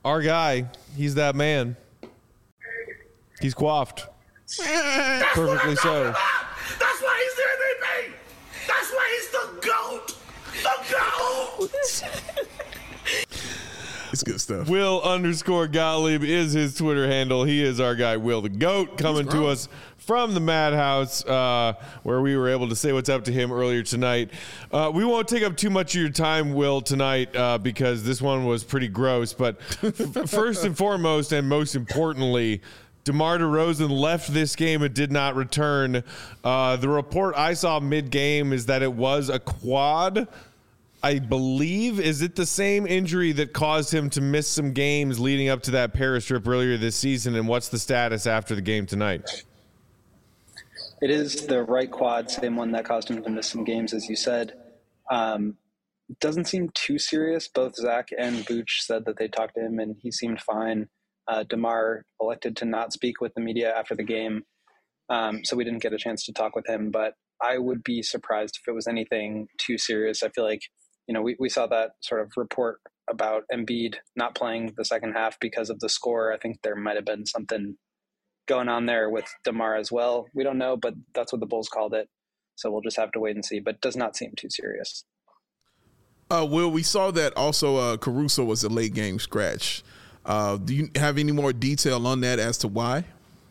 Our guy, he's that man. He's coiffed. Perfectly so. That's why he's the MVP. That's why he's the GOAT. The GOAT. It's good stuff. Will_Gottlieb is his Twitter handle. He is our guy, Will the GOAT, coming to us from the Madhouse, where we were able to say what's up to him earlier tonight. We won't take up too much of your time, Will, tonight, because this one was pretty gross. But first and foremost, and most importantly, DeMar DeRozan left this game and did not return. The report I saw mid-game is that it was a quad, I believe. Is it the same injury that caused him to miss some games leading up to that Paris trip earlier this season? And what's the status after the game tonight? It is the right quad, same one that caused him to miss some games, as you said. Doesn't seem too serious. Both Zach and Vooch said that they talked to him and he seemed fine. DeMar elected to not speak with the media after the game, so we didn't get a chance to talk with him. But I would be surprised if it was anything too serious. I feel like, we saw that sort of report about Embiid not playing the second half because of the score. I think there might have been something going on there with DeMar as well. We don't know, but that's what the Bulls called it. So we'll just have to wait and see, but it does not seem too serious. Will, we saw that also Caruso was a late game scratch. Do you have any more detail on that as to why?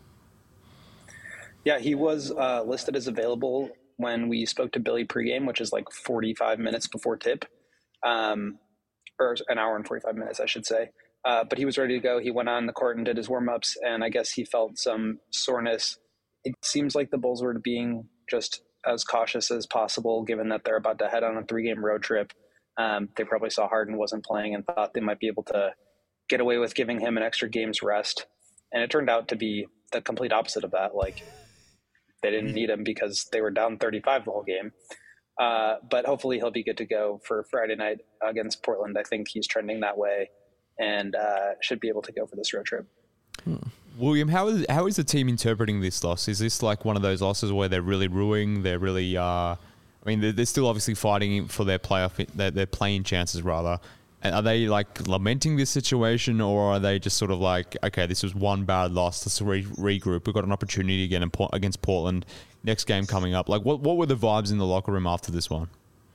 Yeah, he was listed as available when we spoke to Billy pregame, which is like 45 minutes before tip, or an hour and 45 minutes, I should say. But he was ready to go. He went on the court and did his warm-ups, and I guess he felt some soreness. It seems like the Bulls were being just as cautious as possible, given that they're about to head on a 3-game road trip. They probably saw Harden wasn't playing and thought they might be able to get away with giving him an extra game's rest. And it turned out to be the complete opposite of that. Like, they didn't need him because they were down 35 the whole game. But hopefully he'll be good to go for Friday night against Portland. I think he's trending that way and should be able to go for this road trip. William, how is the team interpreting this loss? Is this like one of those losses where they're really ruining, they're really they're still obviously fighting for their their playing chances rather. And are they like lamenting this situation, or are they just sort of like, okay, this was one bad loss, let's regroup, we've got an opportunity again against Portland, next game coming up? Like, what were the vibes in the locker room after this one?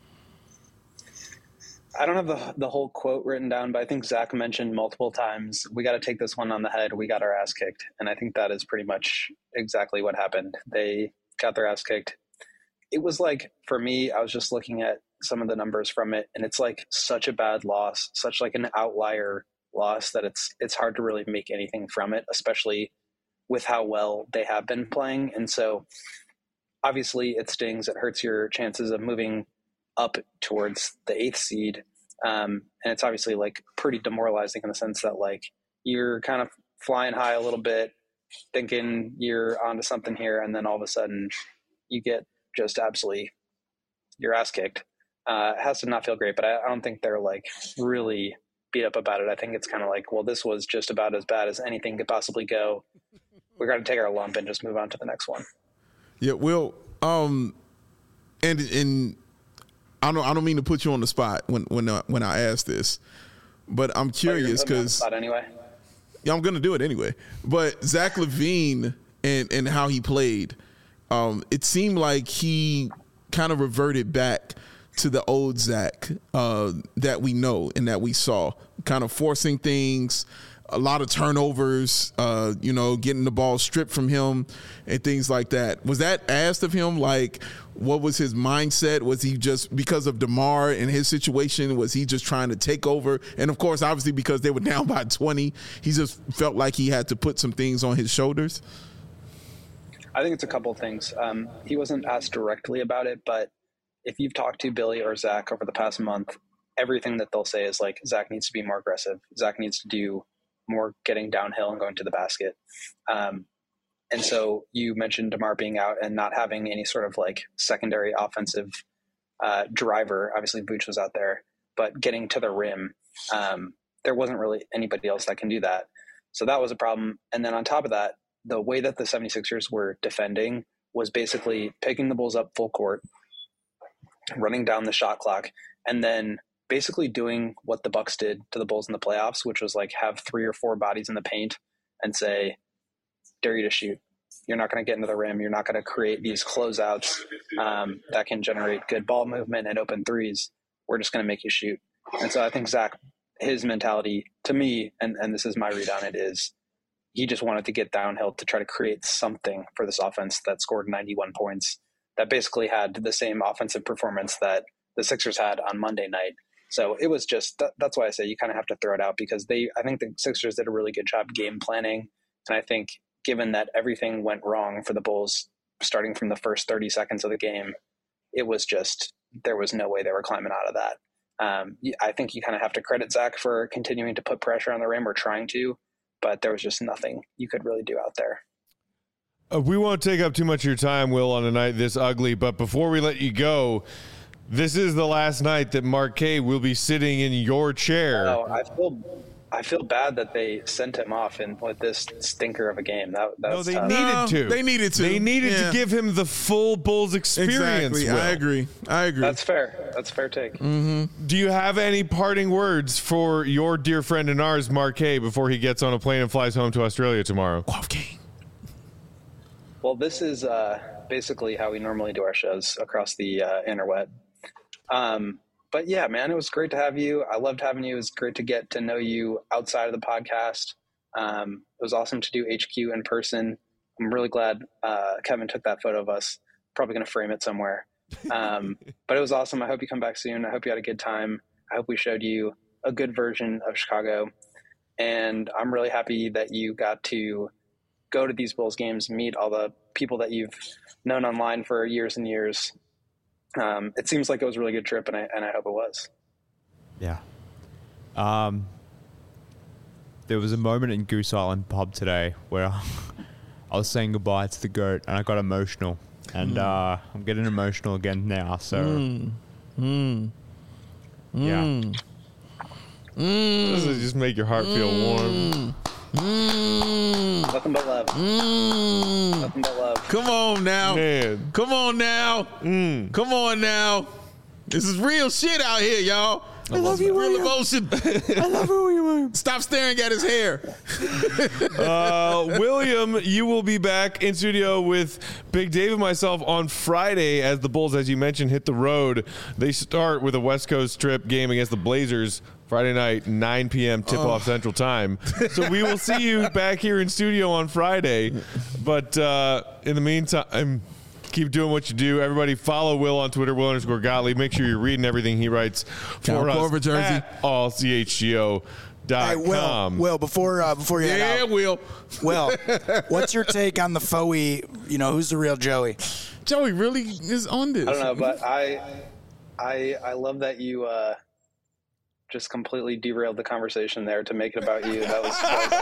I don't have the whole quote written down, but I think Zach mentioned multiple times, we got to take this one on the head, we got our ass kicked. And I think that is pretty much exactly what happened. They got their ass kicked. It was like, for me, I was just looking at some of the numbers from it, and it's like such a bad loss, such like an outlier loss, that it's hard to really make anything from it, especially with how well they have been playing. And so obviously it stings. It hurts your chances of moving up towards the 8th seed. And it's obviously like pretty demoralizing in the sense that like you're kind of flying high a little bit, thinking you're onto something here, and then all of a sudden you get just absolutely your ass kicked. It has to not feel great, but I don't think they're like really beat up about it. I think it's kind of like, well, this was just about as bad as anything could possibly go. We're going to take our lump and just move on to the next one. Yeah, Will, and I don't mean to put you on the spot when I ask this, but I'm curious because anyway. Yeah, I'm going to do it anyway. But Zach LaVine and how he played, it seemed like he kind of reverted back to the old Zach that we know and that we saw, kind of forcing things, a lot of turnovers, getting the ball stripped from him and things like that. Was that asked of him? Like, what was his mindset? Was he just, because of DeMar and his situation, was he just trying to take over? And of course, obviously, because they were down by 20, he just felt like he had to put some things on his shoulders? I think it's a couple of things. He wasn't asked directly about it, but if you've talked to Billy or Zach over the past month, everything that they'll say is like, Zach needs to be more aggressive. Zach needs to do more getting downhill and going to the basket. And so you mentioned DeMar being out and not having any sort of like secondary offensive driver. Obviously Vooch was out there, but getting to the rim, there wasn't really anybody else that can do that. So that was a problem. And then on top of that, the way that the 76ers were defending was basically picking the Bulls up full court, running down the shot clock, and then basically doing what the Bucks did to the Bulls in the playoffs, which was like have 3 or 4 bodies in the paint and say, dare you to shoot. You're not going to get into the rim. You're not going to create these closeouts that can generate good ball movement and open threes. We're just going to make you shoot. And so I think Zach, his mentality to me, and this is my read on it, is he just wanted to get downhill to try to create something for this offense that scored 91 points, that basically had the same offensive performance that the Sixers had on Monday night. So it was just, that's why I say you kind of have to throw it out, because I think the Sixers did a really good job game planning. And I think given that everything went wrong for the Bulls starting from the first 30 seconds of the game, it was just, there was no way they were climbing out of that. I think you kind of have to credit Zach for continuing to put pressure on the rim, or trying to, but there was just nothing you could really do out there. We won't take up too much of your time, Will, on a night this ugly, but before we let you go, this is the last night that Marquet will be sitting in your chair. Oh, I feel bad that they sent him off with this stinker of a game. That no, was they tough. needed to. They needed to. They needed to give him the full Bulls experience. Exactly. Will. I agree. That's fair. That's a fair take. Mm-hmm. Do you have any parting words for your dear friend and ours, Marquet, before he gets on a plane and flies home to Australia tomorrow? Well, this is basically how we normally do our shows across the interweb. But yeah, man, it was great to have you. I loved having you. It was great to get to know you outside of the podcast. It was awesome to do HQ in person. I'm really glad Kevin took that photo of us. Probably going to frame it somewhere. But it was awesome. I hope you come back soon. I hope you had a good time. I hope we showed you a good version of Chicago. And I'm really happy that you got to go to these Bulls games, meet all the people that you've known online for years and years. It seems like it was a really good trip, and I hope it was. Yeah. There was a moment in Goose Island pub today where I was saying goodbye to the GOAT, and I got emotional. And I'm getting emotional again now, so... Yeah. Does it just make your heart feel warm? Nothing but love. Nothing but love. Come on now. Man. Come on now. Come on now. This is real shit out here, y'all. I love you, Real William. emotion. I love who you are. Stop staring at his hair. William, you will be back in studio with Big Dave and myself on Friday as the Bulls, as you mentioned, hit the road. They start with a West Coast trip game against the Blazers Friday night, 9 p.m. tip-off Central Time. So we will see you back here in studio on Friday. But in the meantime, keep doing what you do. Everybody follow Will on Twitter, Will_Gottlieb. Make sure you're reading everything he writes for us Corver jersey. at allchgo.com. Hey, Will, before you head out, Will. Will, what's your take on the Foey? You know, who's the real Joey? Joey really is on this. I don't know, but I love that you just completely derailed the conversation there to make it about you. That was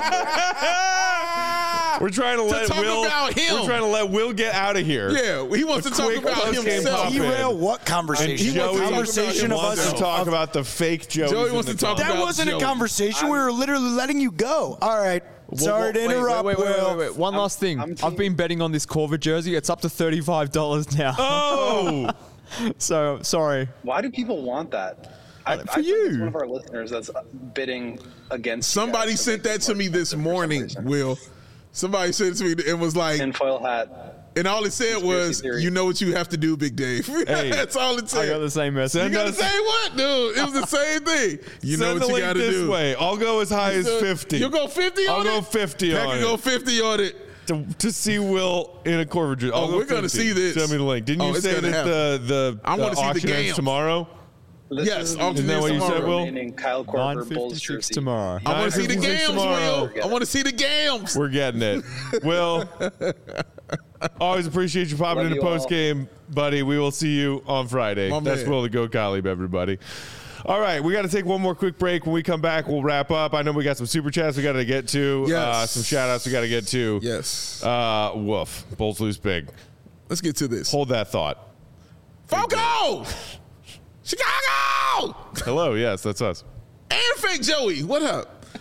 We're trying to let Will. About him. We're trying to let Will get out of here. Yeah, he wants to talk quick about post-game himself. pop-in. Derail what conversation? And Joey Conversation of wants us. to talk about the fake Joey. Joey wants to talk That about wasn't Joey. a conversation. We were literally letting you go. All right. Sorry to interrupt, Will. Wait. One last thing. I've been betting on this Corver jersey. It's up to $35 now. Oh, So, sorry. Why do people want that? I For think you. it's one of our listeners that's bidding against. Somebody you guys sent to that make to me more this expensive for some morning, reason. Will. Somebody sent it to me and was like, Tinfoil hat. and all it said was, theory. you know what you have to do, Big Dave. Hey, That's all it I said. got the same message. You got the same what, dude? It was the same thing. You know send what the you link got to this do. way. I'll go as high as 50. You'll go 50 on it? I'll go 50 Heck, on you go it. 50 on it. To see Will in a Corver jersey. I'll Oh, go we're gonna 50. see this. Send me the link. Didn't Oh, you it's say gonna that the I wanna see the auction ends games. tomorrow? This Yes, is auction Isn't that ends what you said, tomorrow. Will? remaining Kyle Korver Bulls 9:56 jersey. tomorrow. I want to see the 9:56 games, tomorrow. Will. I want to see the games. We're getting it. Will, always appreciate you popping Love into you all. post game, buddy. We will see you on Friday. My That's man. Will the Goat Gottlieb, everybody. All right, we got to take one more quick break. When we come back, we'll wrap up. I know we got some super chats we got to get to. Yes. Some shout outs we got to get to. Yes. Woof. Bulls lose big. Let's get to this. Hold that thought. Foco! Chicago! Hello. Yes, that's us. And Fake Joey. What up?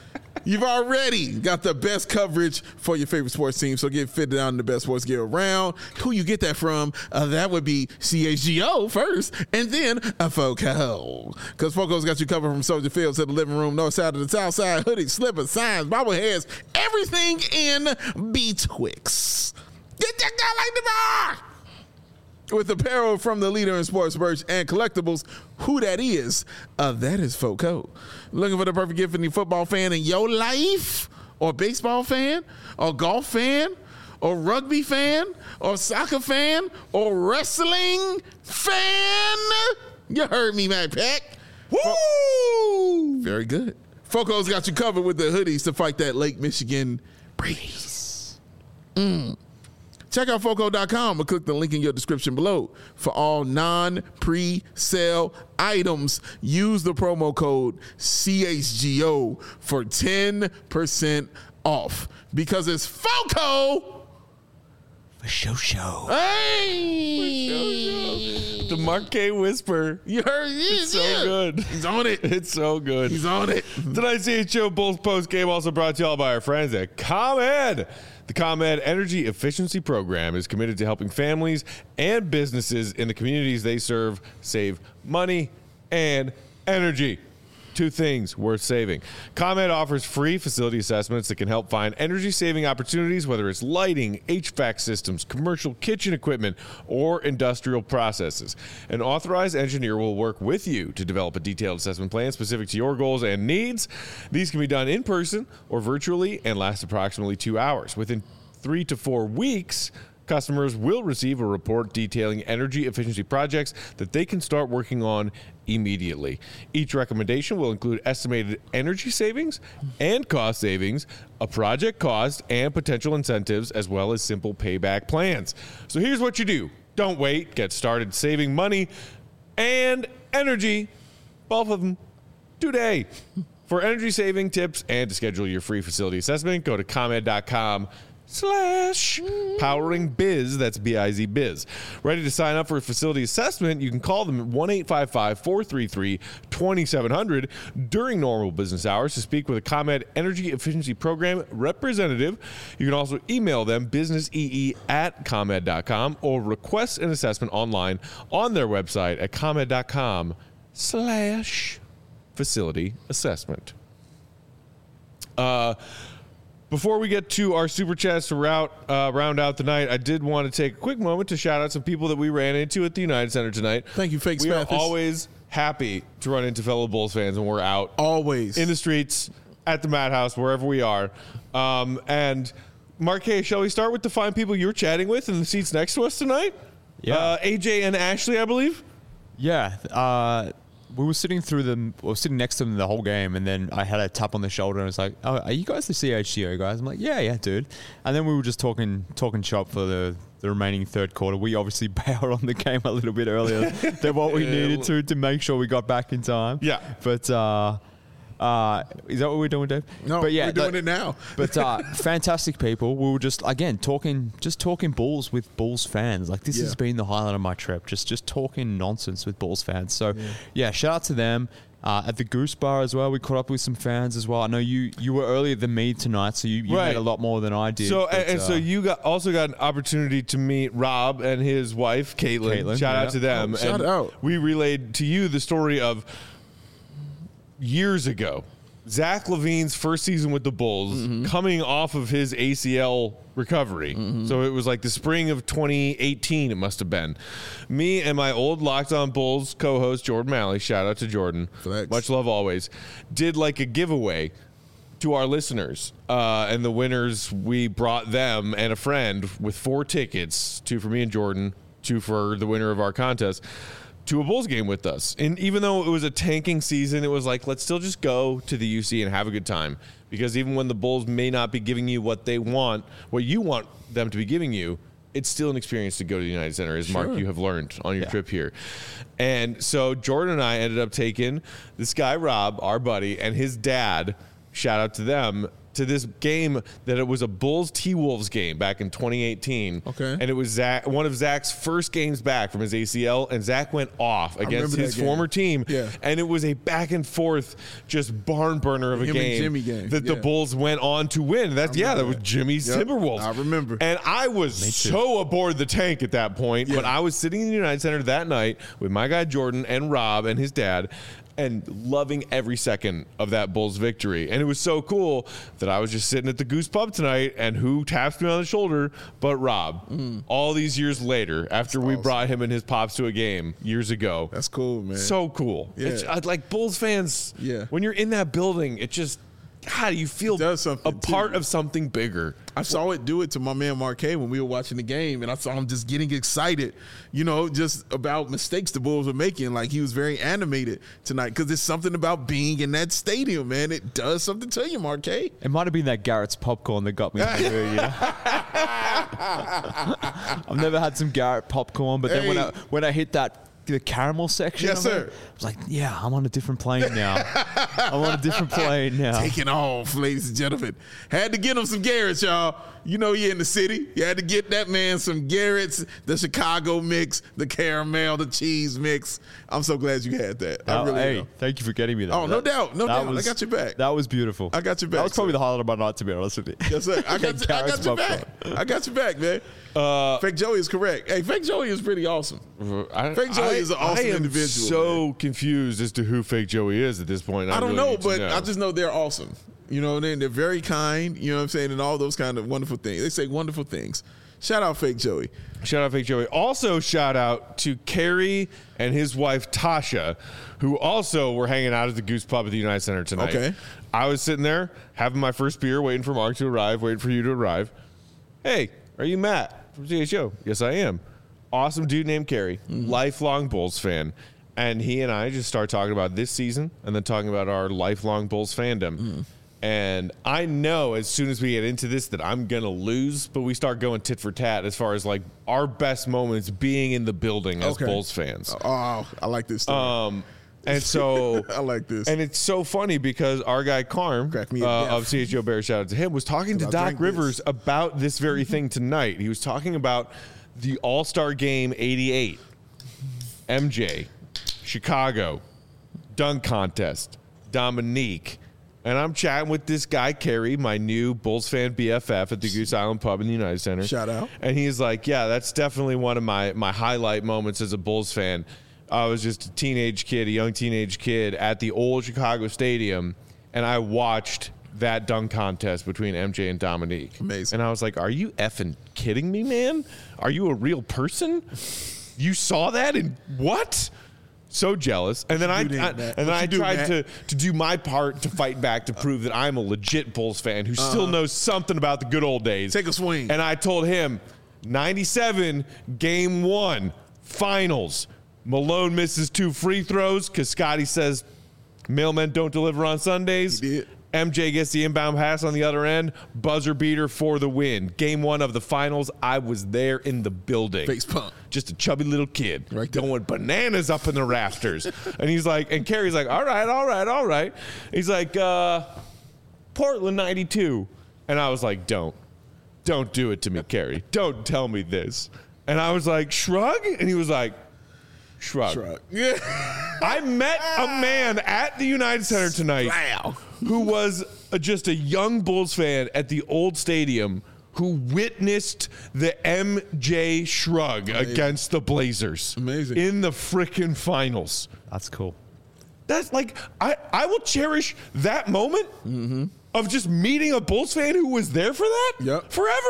You've already got the best coverage for your favorite sports team, so get fitted out in the best sports gear around. Who you get that from? That would be CHGO first, and then FOCO. Because FOCO's got you covered from Soldier Field to the living room, north side to the south side, hoodies, slippers, signs, bobbleheads, everything in betwixt. Get that guy like the bar! With apparel from the leader in sports merch and collectibles, who that is FOCO. Looking for the perfect gift for any football fan in your life? Or baseball fan? Or golf fan? Or rugby fan? Or soccer fan? Or wrestling fan? You heard me, Matt Peck. Woo! Very good. FOCO's got you covered with the hoodies to fight that Lake Michigan breeze. Check out FOCO.com or click the link in your description below. For all non-pre-sale items, use the promo code CHGO for 10% off. Because it's FOCO For show. Hey! The Marquet Whisper. You heard it? It's so good. He's on it. It's so good. He's on it. Tonight's CHGO Bulls post game also brought to you all by our friends at ComEd. The ComEd Energy Efficiency Program is committed to helping families and businesses in the communities they serve save money and energy. Two things worth saving. ComEd offers free facility assessments that can help find energy-saving opportunities, whether it's lighting, HVAC systems, commercial kitchen equipment, or industrial processes. An authorized engineer will work with you to develop a detailed assessment plan specific to your goals and needs. These can be done in person or virtually and last approximately 2 hours. Within 3 to 4 weeks, customers will receive a report detailing energy efficiency projects that they can start working on immediately. Each recommendation will include estimated energy savings and cost savings, a project cost, and potential incentives, as well as simple payback plans. So here's what you do. Don't wait. Get started saving money and energy, both of them, today. For energy saving tips and to schedule your free facility assessment, go to ComEd.com/poweringbiz. That's B-I-Z biz. Ready to sign up for a facility assessment? You can call them at 1-855-433-2700 during normal business hours to speak with a ComEd Energy Efficiency Program representative. You can also email them businessee@comed.com or request an assessment online on their website at ComEd.com/facility assessment. Before we get to our super chats to round out the night, I did want to take a quick moment to shout out some people that we ran into at the United Center tonight. Thank you, Fake We are Spathis. always happy to run into fellow Bulls fans when we're out. Always. In the streets, at the Madhouse, wherever we are. And Marquez, shall we start with the fine people you're chatting with in the seats next to us tonight? Yeah. AJ and Ashley, I believe? Yeah. We were sitting next to them the whole game, and then I had a tap on the shoulder, and I was like, "Oh, are you guys the CHGO guys?" I'm like, "Yeah, dude." And then we were just talking shop for the remaining third quarter. We obviously bailed on the game a little bit earlier than what we needed to make sure we got back in time. Yeah. But is that what we're doing, Dave? No, but yeah, we're doing it now. But fantastic people. We were just talking Bulls with Bulls fans. Like this has been the highlight of my trip. Just talking nonsense with Bulls fans. So yeah, shout out to them. At the Goose Bar as well, we caught up with some fans as well. I know you were earlier than me tonight, so you Right. made a lot more than I did. So but, so you also got an opportunity to meet Rob and his wife, Caitlin. Shout out to them. Shout out. We relayed to you the story of years ago, Zach LaVine's first season with the Bulls, coming off of his ACL recovery. So it was like the spring of 2018, it must have been. Me and my old Locked On Bulls co-host, Jordan Malley, shout out to Jordan, Flex. much love always, did like a giveaway to our listeners. And the winners, we brought them and a friend with 4 tickets, 2 for me and Jordan, 2 for the winner of our contest, to a Bulls game with us. And even though it was a tanking season, it was like, let's still just go to the UC and have a good time. Because even when the Bulls may not be giving you what they want, what you want them to be giving you, it's still an experience to go to the United Center, as Mark, you have learned on your trip here. And so Jordan and I ended up taking this guy, Rob, our buddy, and his dad, shout out to them, to this game that it was a Bulls T-Wolves game back in 2018. Okay. And it was one of Zach's first games back from his ACL, and Zach went off against his former team. Yeah. And it was a back and forth, just barn burner of a Him and game, Jimmy game. that the Bulls went on to win. That was Jimmy's Timberwolves. I remember. And I was so aboard the tank at that point, but I was sitting in the United Center that night with my guy Jordan and Rob and his dad, and loving every second of that Bulls victory. And it was so cool that I was just sitting at the Goose Pub tonight, and who taps me on the shoulder but Rob. All these years later, after we brought him and his pops to a game years ago. That's cool, man. So cool. Yeah. It's, like Bulls fans, Yeah. when you're in that building, it just, God, you feel does something a part too. of something bigger. I saw it do it to my man Marquet when we were watching the game, and I saw him just getting excited, just about mistakes the Bulls were making. Like, he was very animated tonight because there's something about being in that stadium, man. It does something to you, Marquet. It might have been that Garrett's popcorn that got me in the mood, I've never had some Garrett popcorn, but then when I hit the caramel section, Yes, sir. I was like, yeah, I'm on a different plane now. Taking off, ladies and gentlemen. Had to get him some Garrett's, y'all. You're in the city. You had to get that man some Garrett's, the Chicago mix, the caramel, the cheese mix. I'm so glad you had that. I really am. Thank you for getting me that. Oh, no doubt. No doubt. I got your back. That was beautiful. I got your back. That was probably sir. the highlight of my night, to be honest with you. Yes, sir. I got Garrett's your back. popcorn. I got your back, man. Fake Joey is correct. Hey, Fake Joey is pretty awesome. Fake Joey is an awesome individual. I am so confused as to who Fake Joey is at this point. I don't really know, need to but know. I just know they're awesome. They're very kind, you know what I'm saying, and all those kind of wonderful things. They say wonderful things. Shout out Fake Joey. Shout out Fake Joey. Also, shout out to Kerry and his wife Tasha, who also were hanging out at the Goose Pub at the United Center tonight. Okay. I was sitting there having my first beer, waiting for Mark to arrive, waiting for you to arrive. Hey, are you Matt from CHO? Yes, I am. Awesome dude named Kerry, lifelong Bulls fan. And he and I just start talking about this season and then talking about our lifelong Bulls fandom. And I know as soon as we get into this that I'm going to lose, but we start going tit for tat as far as like our best moments being in the building as Bulls fans. Oh, I like this story. And so I like this. And it's so funny because our guy Carm Crack me to death. of CHO Bear, shout out to him, was talking to I Doc drank Rivers this. about this very thing tonight. He was talking about the All-Star Game 88, MJ, Chicago, dunk contest, Dominique. And I'm chatting with this guy, Kerry, my new Bulls fan BFF at the Goose Island Pub in the United Center. Shout out. And he's like, yeah, that's definitely one of my highlight moments as a Bulls fan. I was just a young teenage kid at the old Chicago Stadium, and I watched that dunk contest between MJ and Dominique. Amazing. And I was like, are you effing kidding me, man? Are you a real person? You saw that and what? So jealous. And then I tried to do my part to fight back to prove that I'm a legit Bulls fan who still knows something about the good old days. Take a swing. And I told him, 97, game 1, finals. Malone misses 2 free throws because Scotty says mailmen don't deliver on Sundays. He did. MJ gets the inbound pass on the other end, buzzer beater for the win. Game 1 of the finals, I was there in the building. Face pump. Just a chubby little kid Right there. going bananas up in the rafters. And he's like, and Kerry's like, all right. He's like, Portland 92. And I was like, don't do it to me, Kerry. Don't tell me this. And I was like, shrug? And he was like, shrug. Yeah. I met a man at the United Center tonight Wow. who was just a young Bulls fan at the old stadium who witnessed the MJ shrug against the Blazers. Amazing. In the frickin' finals. That's cool. That's like, I will cherish that moment of just meeting a Bulls fan who was there for that Yep.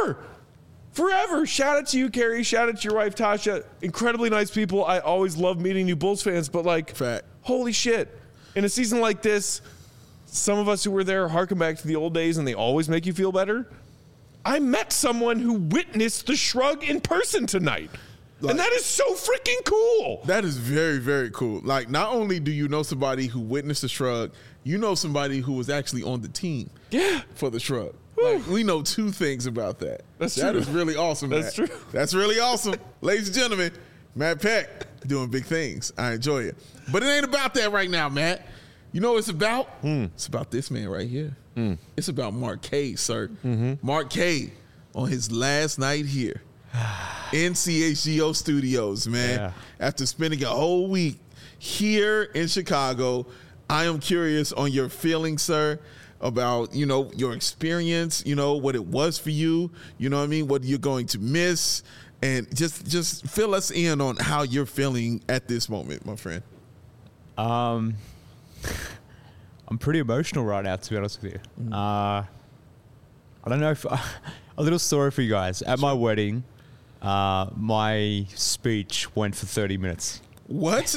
forever. Shout out to you, Kerry. Shout out to your wife, Tasha. Incredibly nice people. I always love meeting new Bulls fans, but like, Fact. holy shit. In a season like this, some of us who were there harken back to the old days and they always make you feel better. I met someone who witnessed the shrug in person tonight. And that is so freaking cool. That is very, very cool. Like, not only do you know somebody who witnessed the shrug, you know somebody who was actually on the team for the shrug. Like, we know 2 things about that. That's That true. is really awesome. That's Matt. true. That's really awesome. Ladies and gentlemen, Matt Peck doing big things. I enjoy it. But it ain't about that right now, Matt. You know what it's about? It's about this man right here. It's about Mark K, sir. Mark K on his last night here in CHGO Studios, man. Yeah. After spending a whole week here in Chicago, I am curious on your feelings, sir, about, you know, your experience, you know, what it was for you, you know what I mean, what you're going to miss, and just fill us in on how you're feeling at this moment, my friend. I'm pretty emotional right now, to be honest with you. I don't know if a little story for you guys. At my wedding, my speech went for 30 minutes. What?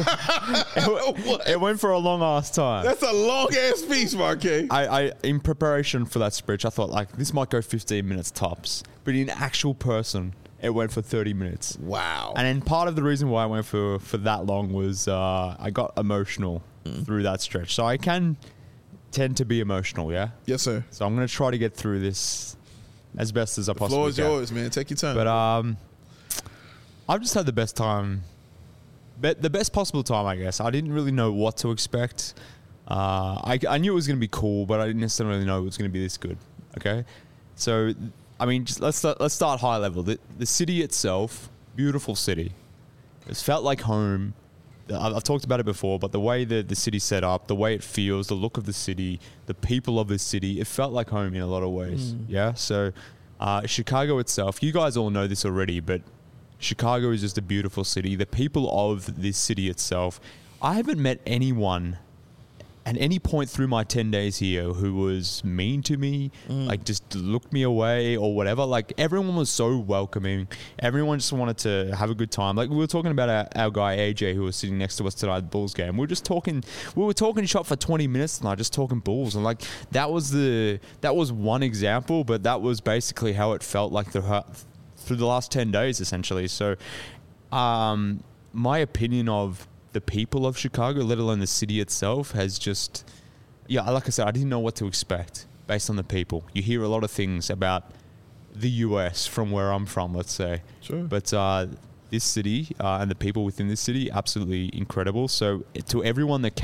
It went for a long ass time. That's a long ass speech, Mark K. I in preparation for that speech, I thought like this might go 15 minutes tops, but in actual person, it went for 30 minutes. Wow. And then part of the reason why I went for that long was I got emotional through that stretch. So I can tend to be emotional, yeah? Yes, sir. So I'm going to try to get through this as best as I possibly Floor is can. yours, man. Take your time. But I've just had the best time, the best possible time, I guess. I didn't really know what to expect. I knew it was going to be cool, but I didn't necessarily know it was going to be this good. Okay, so I mean, just let's start high level. The city itself, beautiful city. It's felt like home. I've talked about it before, but the way the city's set up, the way it feels, the look of the city, the people of the city, it felt like home in a lot of ways. Yeah. So Chicago itself, you guys all know this already, but Chicago is just a beautiful city. The people of this city itself, I haven't met anyone at any point through my 10 days here who was mean to me, like just looked me away or whatever. Like everyone was so welcoming. Everyone just wanted to have a good time. Like we were talking about our guy AJ who was sitting next to us tonight at the Bulls game. We were talking shop for 20 minutes tonight, just talking Bulls. And like that was one example, but that was basically how it felt like through the last 10 days essentially. So my opinion of the people of Chicago, let alone the city itself, has just, like I said, I didn't know what to expect based on the people. You hear a lot of things about the US from where I'm from, let's say. Sure. But this city and the people within this city, absolutely incredible. So to everyone that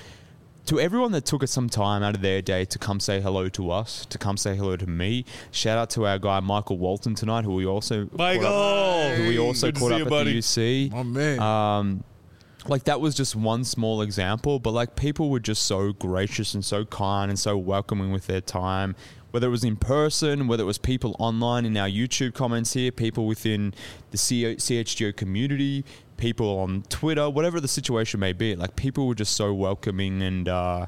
took some time out of their day to come say hello to us, to come say hello to me. Shout out to our guy Michael Walton tonight, who we also caught up at the UC. My man. Like that was just one small example, but like people were just so gracious and so kind and so welcoming with their time, whether it was in person, whether it was people online in our YouTube comments here, people within the CHGO community, people on Twitter, whatever the situation may be. Like people were just so welcoming, and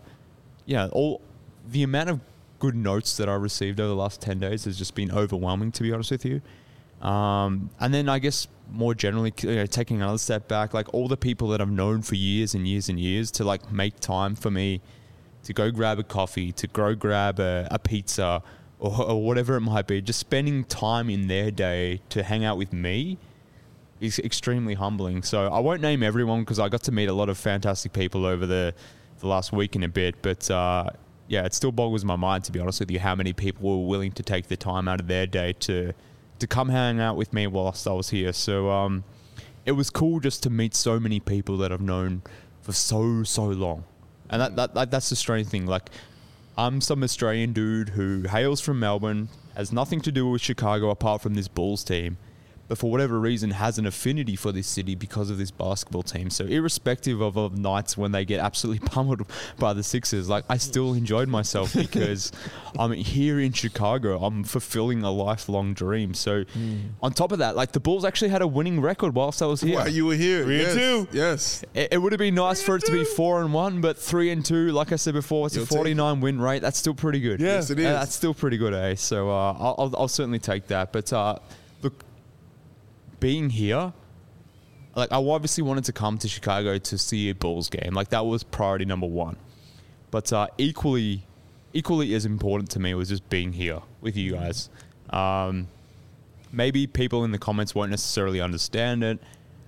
all the amount of good notes that I received over the last 10 days has just been overwhelming, to be honest with you. And then I guess more generally, taking another step back, like all the people that I've known for years and years and years to like make time for me to go grab a coffee, to go grab a pizza or whatever it might be, just spending time in their day to hang out with me is extremely humbling. So I won't name everyone because I got to meet a lot of fantastic people over the last week and a bit, but it still boggles my mind, to be honest with you, how many people were willing to take the time out of their day to come hang out with me whilst I was here. So it was cool just to meet so many people that I've known for so long. And that's the strange thing. Like, I'm some Australian dude who hails from Melbourne, has nothing to do with Chicago apart from this Bulls team, but for whatever reason has an affinity for this city because of this basketball team. So irrespective of nights when they get absolutely pummeled by the Sixers, like I still enjoyed myself because I'm here in Chicago. I'm fulfilling a lifelong dream. So on top of that, like the Bulls actually had a winning record whilst I was here. While you were here. 3-2. Yes. It would have been nice for it to be 4-1, but 3-2, like I said before, it's a 49 win rate. That's still pretty good. Yeah. Yes, it is. That's still pretty good, eh? So I'll certainly take that. But look, being here, like I obviously wanted to come to Chicago to see a Bulls game. Like that was priority number one. But equally as important to me was just being here with you guys. Maybe people in the comments won't necessarily understand it.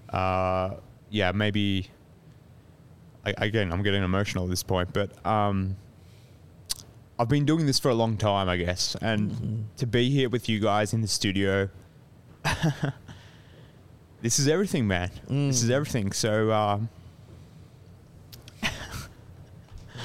Maybe. Again, I'm getting emotional at this point, but I've been doing this for a long time, I guess, and to be here with you guys in the studio. This is everything, man. This is everything. So,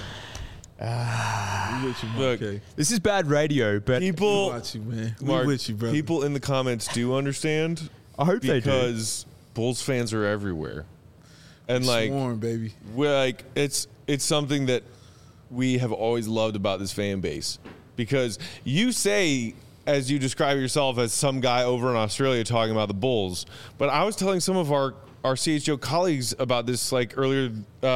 We with you, Look, Mark K. This is bad radio, but people, We watch you, man. We Mark, with you, brother. people in the comments do understand. I hope they do. Because Bulls fans are everywhere, and like Swarm, baby. we're like it's something that we have always loved about this fan base. Because you say, as you describe yourself, as some guy over in Australia talking about the Bulls, but I was telling some of our CHGO colleagues about this like earlier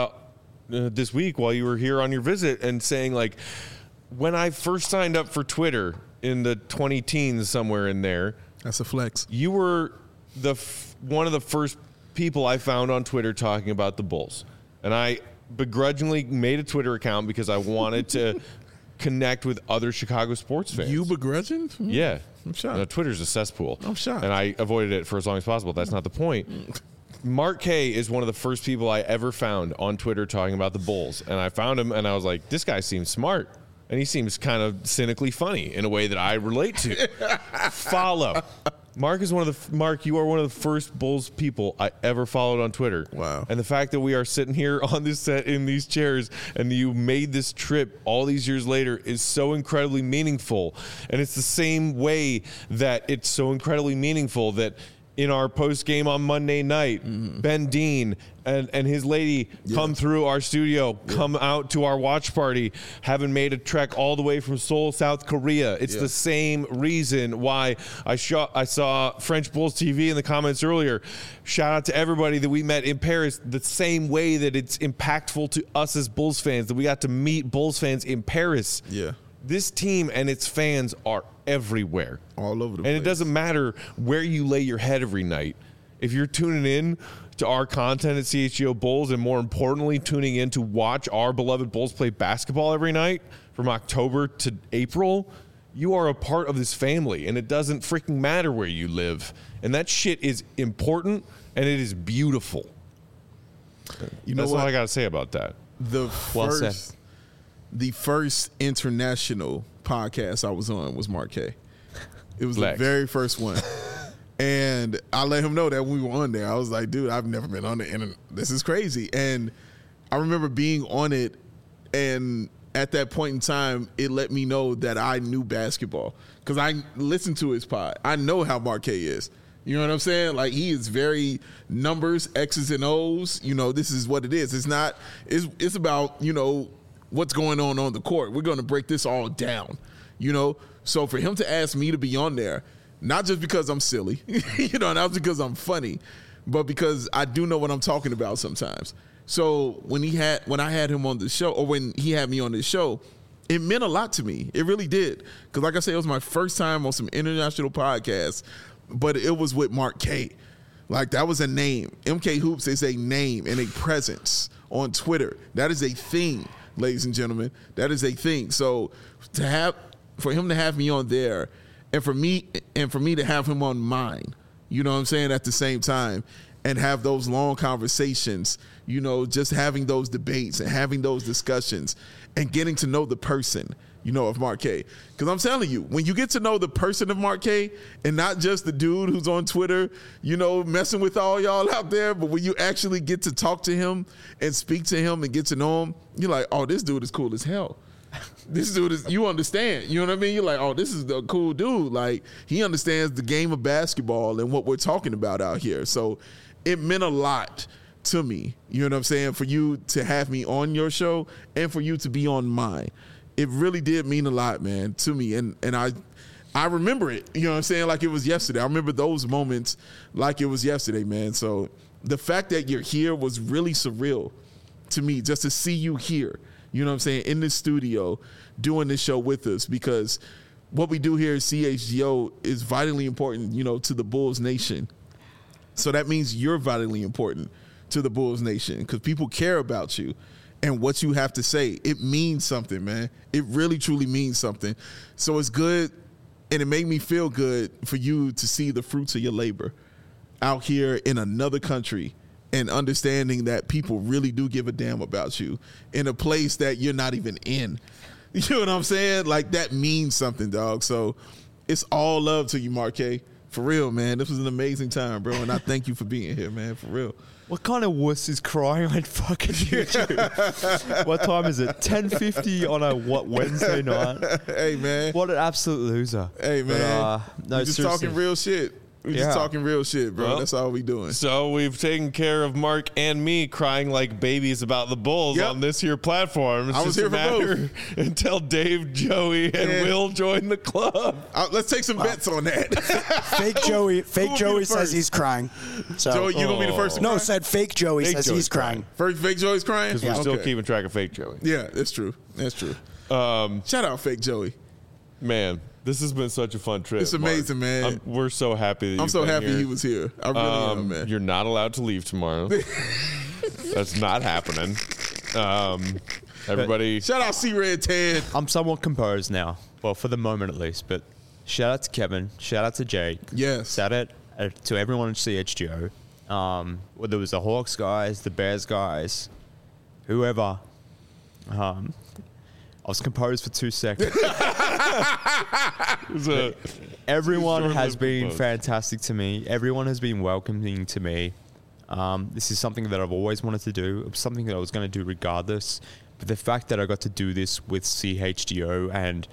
this week while you were here on your visit, and saying like, when I first signed up for Twitter in the 20-teens, somewhere in there, That's a flex. you were one of the first people I found on Twitter talking about the Bulls. And I begrudgingly made a Twitter account because I wanted to connect with other Chicago sports fans. You begrudging? Yeah. I'm shocked. Twitter's a cesspool. I'm shocked. And I avoided it for as long as possible. That's not the point. Mark K is one of the first people I ever found on Twitter talking about the Bulls. And I found him and I was like, this guy seems smart. And he seems kind of cynically funny in a way that I relate to. Follow. Mark, you are one of the first Bulls people I ever followed on Twitter. Wow. And the fact that we are sitting here on this set in these chairs and you made this trip all these years later is so incredibly meaningful. And it's the same way that it's so incredibly meaningful that in our post game on Monday night, Ben Dean and his lady come through our studio, come out to our watch party, having made a trek all the way from Seoul, South Korea. It's the same reason why I saw French Bulls TV in the comments earlier. Shout out to everybody that we met in Paris. The same way that it's impactful to us as Bulls fans, that we got to meet Bulls fans in Paris. Yeah. This team and its fans are everywhere. All over the place. And it doesn't matter where you lay your head every night. If you're tuning in to our content at CHGO Bulls, and more importantly, tuning in to watch our beloved Bulls play basketball every night from October to April, you are a part of this family, and it doesn't freaking matter where you live. And that shit is important, and it is beautiful. You know That's what? all I got to say about that. The first international podcast I was on was Mark K. It was Lex. the very first one. And I let him know that we were on there. I was like, dude, I've never been on it, and this is crazy. And I remember being on it, and at that point in time, it let me know that I knew basketball because I listened to his pod. I know how Mark K is. You know what I'm saying? Like, he is very numbers, X's and O's. You know, this is what it is. It's not, it's about, you know, what's going on the court. We're going to break this all down, you know? So for him to ask me to be on there, not just because I'm silly, you know, not because I'm funny, but because I do know what I'm talking about sometimes. So when I had him on the show, or when he had me on this show, it meant a lot to me. It really did. Because like I said, it was my first time on some international podcasts, but it was with Mark K. Like, that was a name. MK Hoops is a name and a presence on Twitter. That is a thing, ladies and gentlemen. That is a thing. So for him to have me on there, and for me to have him on mine, you know what I'm saying, at the same time, and have those long conversations, you know, just having those debates and having those discussions and getting to know the person, you know, of Mark K. Because I'm telling you, when you get to know the person of Mark K and not just the dude who's on Twitter, you know, messing with all y'all out there, but when you actually get to talk to him and speak to him and get to know him, you're like, oh, this dude is cool as hell. This dude is, you understand, you know what I mean? You're like, oh, this is the cool dude. Like, he understands the game of basketball and what we're talking about out here. So it meant a lot to me, you know what I'm saying, for you to have me on your show and for you to be on mine. It really did mean a lot, man, to me. And I remember it, you know what I'm saying, like it was yesterday. I remember those moments like it was yesterday, man. So the fact that you're here was really surreal to me, just to see you here, you know what I'm saying, in the studio doing this show with us, because what we do here at CHGO is vitally important, you know, to the Bulls Nation. So that means you're vitally important to the Bulls Nation because people care about you and what you have to say. It means something, man. It really, truly means something. So it's good, and it made me feel good for you to see the fruits of your labor out here in another country and understanding that people really do give a damn about you in a place that you're not even in. You know what I'm saying? Like, that means something, dog. So it's all love to you, Mark K. For real, man. This was an amazing time, bro, and I thank you for being here, man, for real. What kind of wuss is crying on fucking YouTube? What time is it? 10:50 on a Wednesday night? Hey, man. What an absolute loser. Hey, man. But, no, we just seriously. talking real shit. We just talking real shit, bro. Well, That's all we doing. So we've taken care of Mark and me crying like babies about the Bulls on this here platform. It's I was just here a for matter until Dave, Joey, and Will join the club. Let's take some bets on that. Fake Joey says he's crying. So Joey, you gonna be the first to cry? No, said fake Joey says he's crying. First, fake Joey's crying? Because we're still keeping track of fake Joey. Yeah, that's true. That's true. Shout out fake Joey. Man, this has been such a fun trip. It's amazing, Mark. man. We're so happy that I'm so happy here. he was here. I really am, man. You're not allowed to leave tomorrow. That's not happening. Everybody. Shout out C-Red Ted. I'm somewhat composed now. Well, for the moment at least. But shout out to Kevin. Shout out to Jake. Yes. Shout out to everyone at CHGO. Whether it was the Hawks guys, the Bears guys, whoever. I was composed for 2 seconds. Everyone has been fantastic to me. Everyone has been welcoming to me. This is something that I've always wanted to do. It was something that I was going to do regardless. But the fact that I got to do this with CHGO and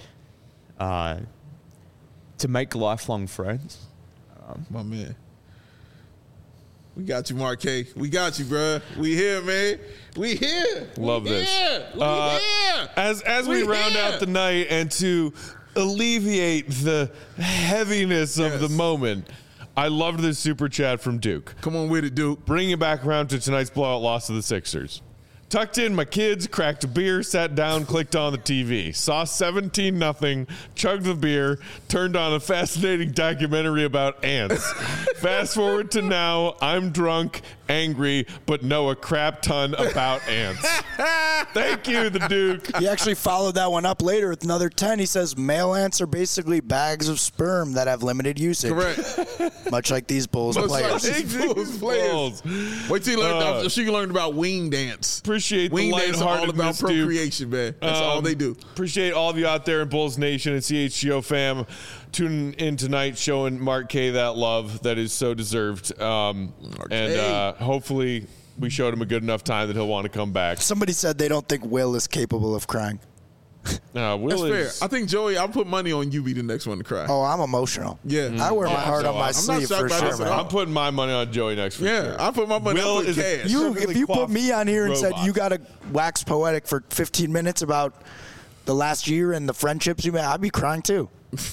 to make lifelong friends. My man. We got you, Mark K. We got you, bruh. We here, man. We here. Love this. We here. As we round out the night and to alleviate the heaviness of the moment, I loved this super chat from Duke. Come on with it, Duke. Bringing it back around to tonight's blowout loss to the Sixers. Tucked in my kids, cracked a beer, sat down, clicked on the TV. Saw 17-0, chugged the beer, turned on a fascinating documentary about ants. Fast forward to now, I'm drunk, angry, but know a crap ton about ants. Thank you, the Duke. He actually followed that one up later with another 10. He says male ants are basically bags of sperm that have limited usage. Correct. Much like these Bulls players. Wait till you learn. She learned about wing dance. Appreciate wing the dance. All about lightheartedness, Duke. procreation, man. That's all they do. Appreciate all of you out there in Bulls Nation and CHGO fam tuning in tonight, showing Mark K that love that is so deserved. Hopefully we showed him a good enough time that he'll want to come back. Somebody said they don't think Will is capable of crying. Will That's is, fair. I think, Joey, I'll put money on you be the next one to cry. Oh, I'm emotional. Yeah. I wear my heart on my sleeve for shocked by sure, this. man. I'm putting my money on Joey next for sure. I put my money on cash. If you put me on here and said you got to wax poetic for 15 minutes about the last year and the friendships you made, I'd be crying too.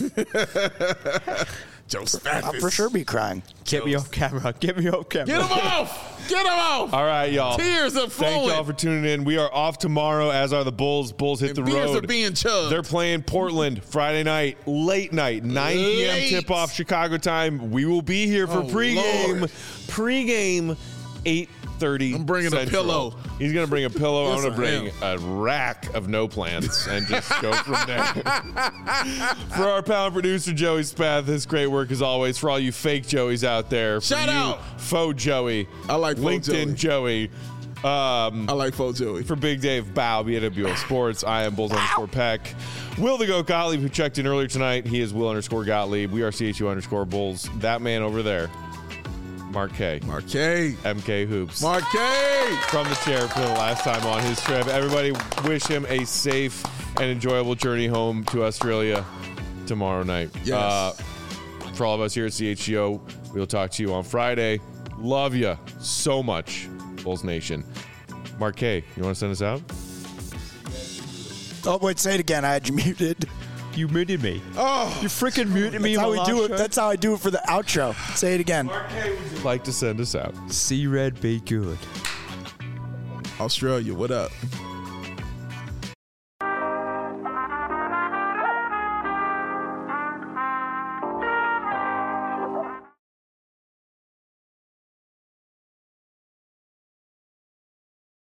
Joe Spaffis. I'll for sure be crying. Get me off camera. Get me off camera. Get him off. Get him off. All right, y'all. Tears are flowing. Thank y'all for tuning in. We are off tomorrow, as are the Bulls. Bulls hit the beers road. are being chugged. They're playing Portland Friday night, late night, 9 p.m. tip-off Chicago time. We will be here for pregame. Lord. Pregame, 8:30 I'm bringing Central. a pillow. He's going to bring a pillow. I'm Yes, going to I bring a rack of no plants and just go from there. For our pal producer, Joey Spath, his great work as always. For all you fake Joeys out there. Shout for you, out. Faux Joey. I like faux LinkedIn Joey. I like Faux Joey. For Big Dave Bow, BWO Sports, I am Bulls_Peck. Will the Goat Gottlieb, who checked in earlier tonight, he is Will_Gottlieb. We are CHU_Bulls. That man over there, Mark K. Mark K. MK Hoops. Mark K. From the chair for the last time on his trip. Everybody wish him a safe and enjoyable journey home to Australia tomorrow night. Yes. For all of us here at CHGO, we'll talk to you on Friday. Love you so much, Bulls Nation. Mark K., you want to send us out? Oh, wait, say it again. I had you muted. You muted me. Oh, You freaking muted me. That's how in my we do last it. show. That's how I do it for the outro. Say it again. Mark K., would you like to send us out? See Red, be good. Australia, what up?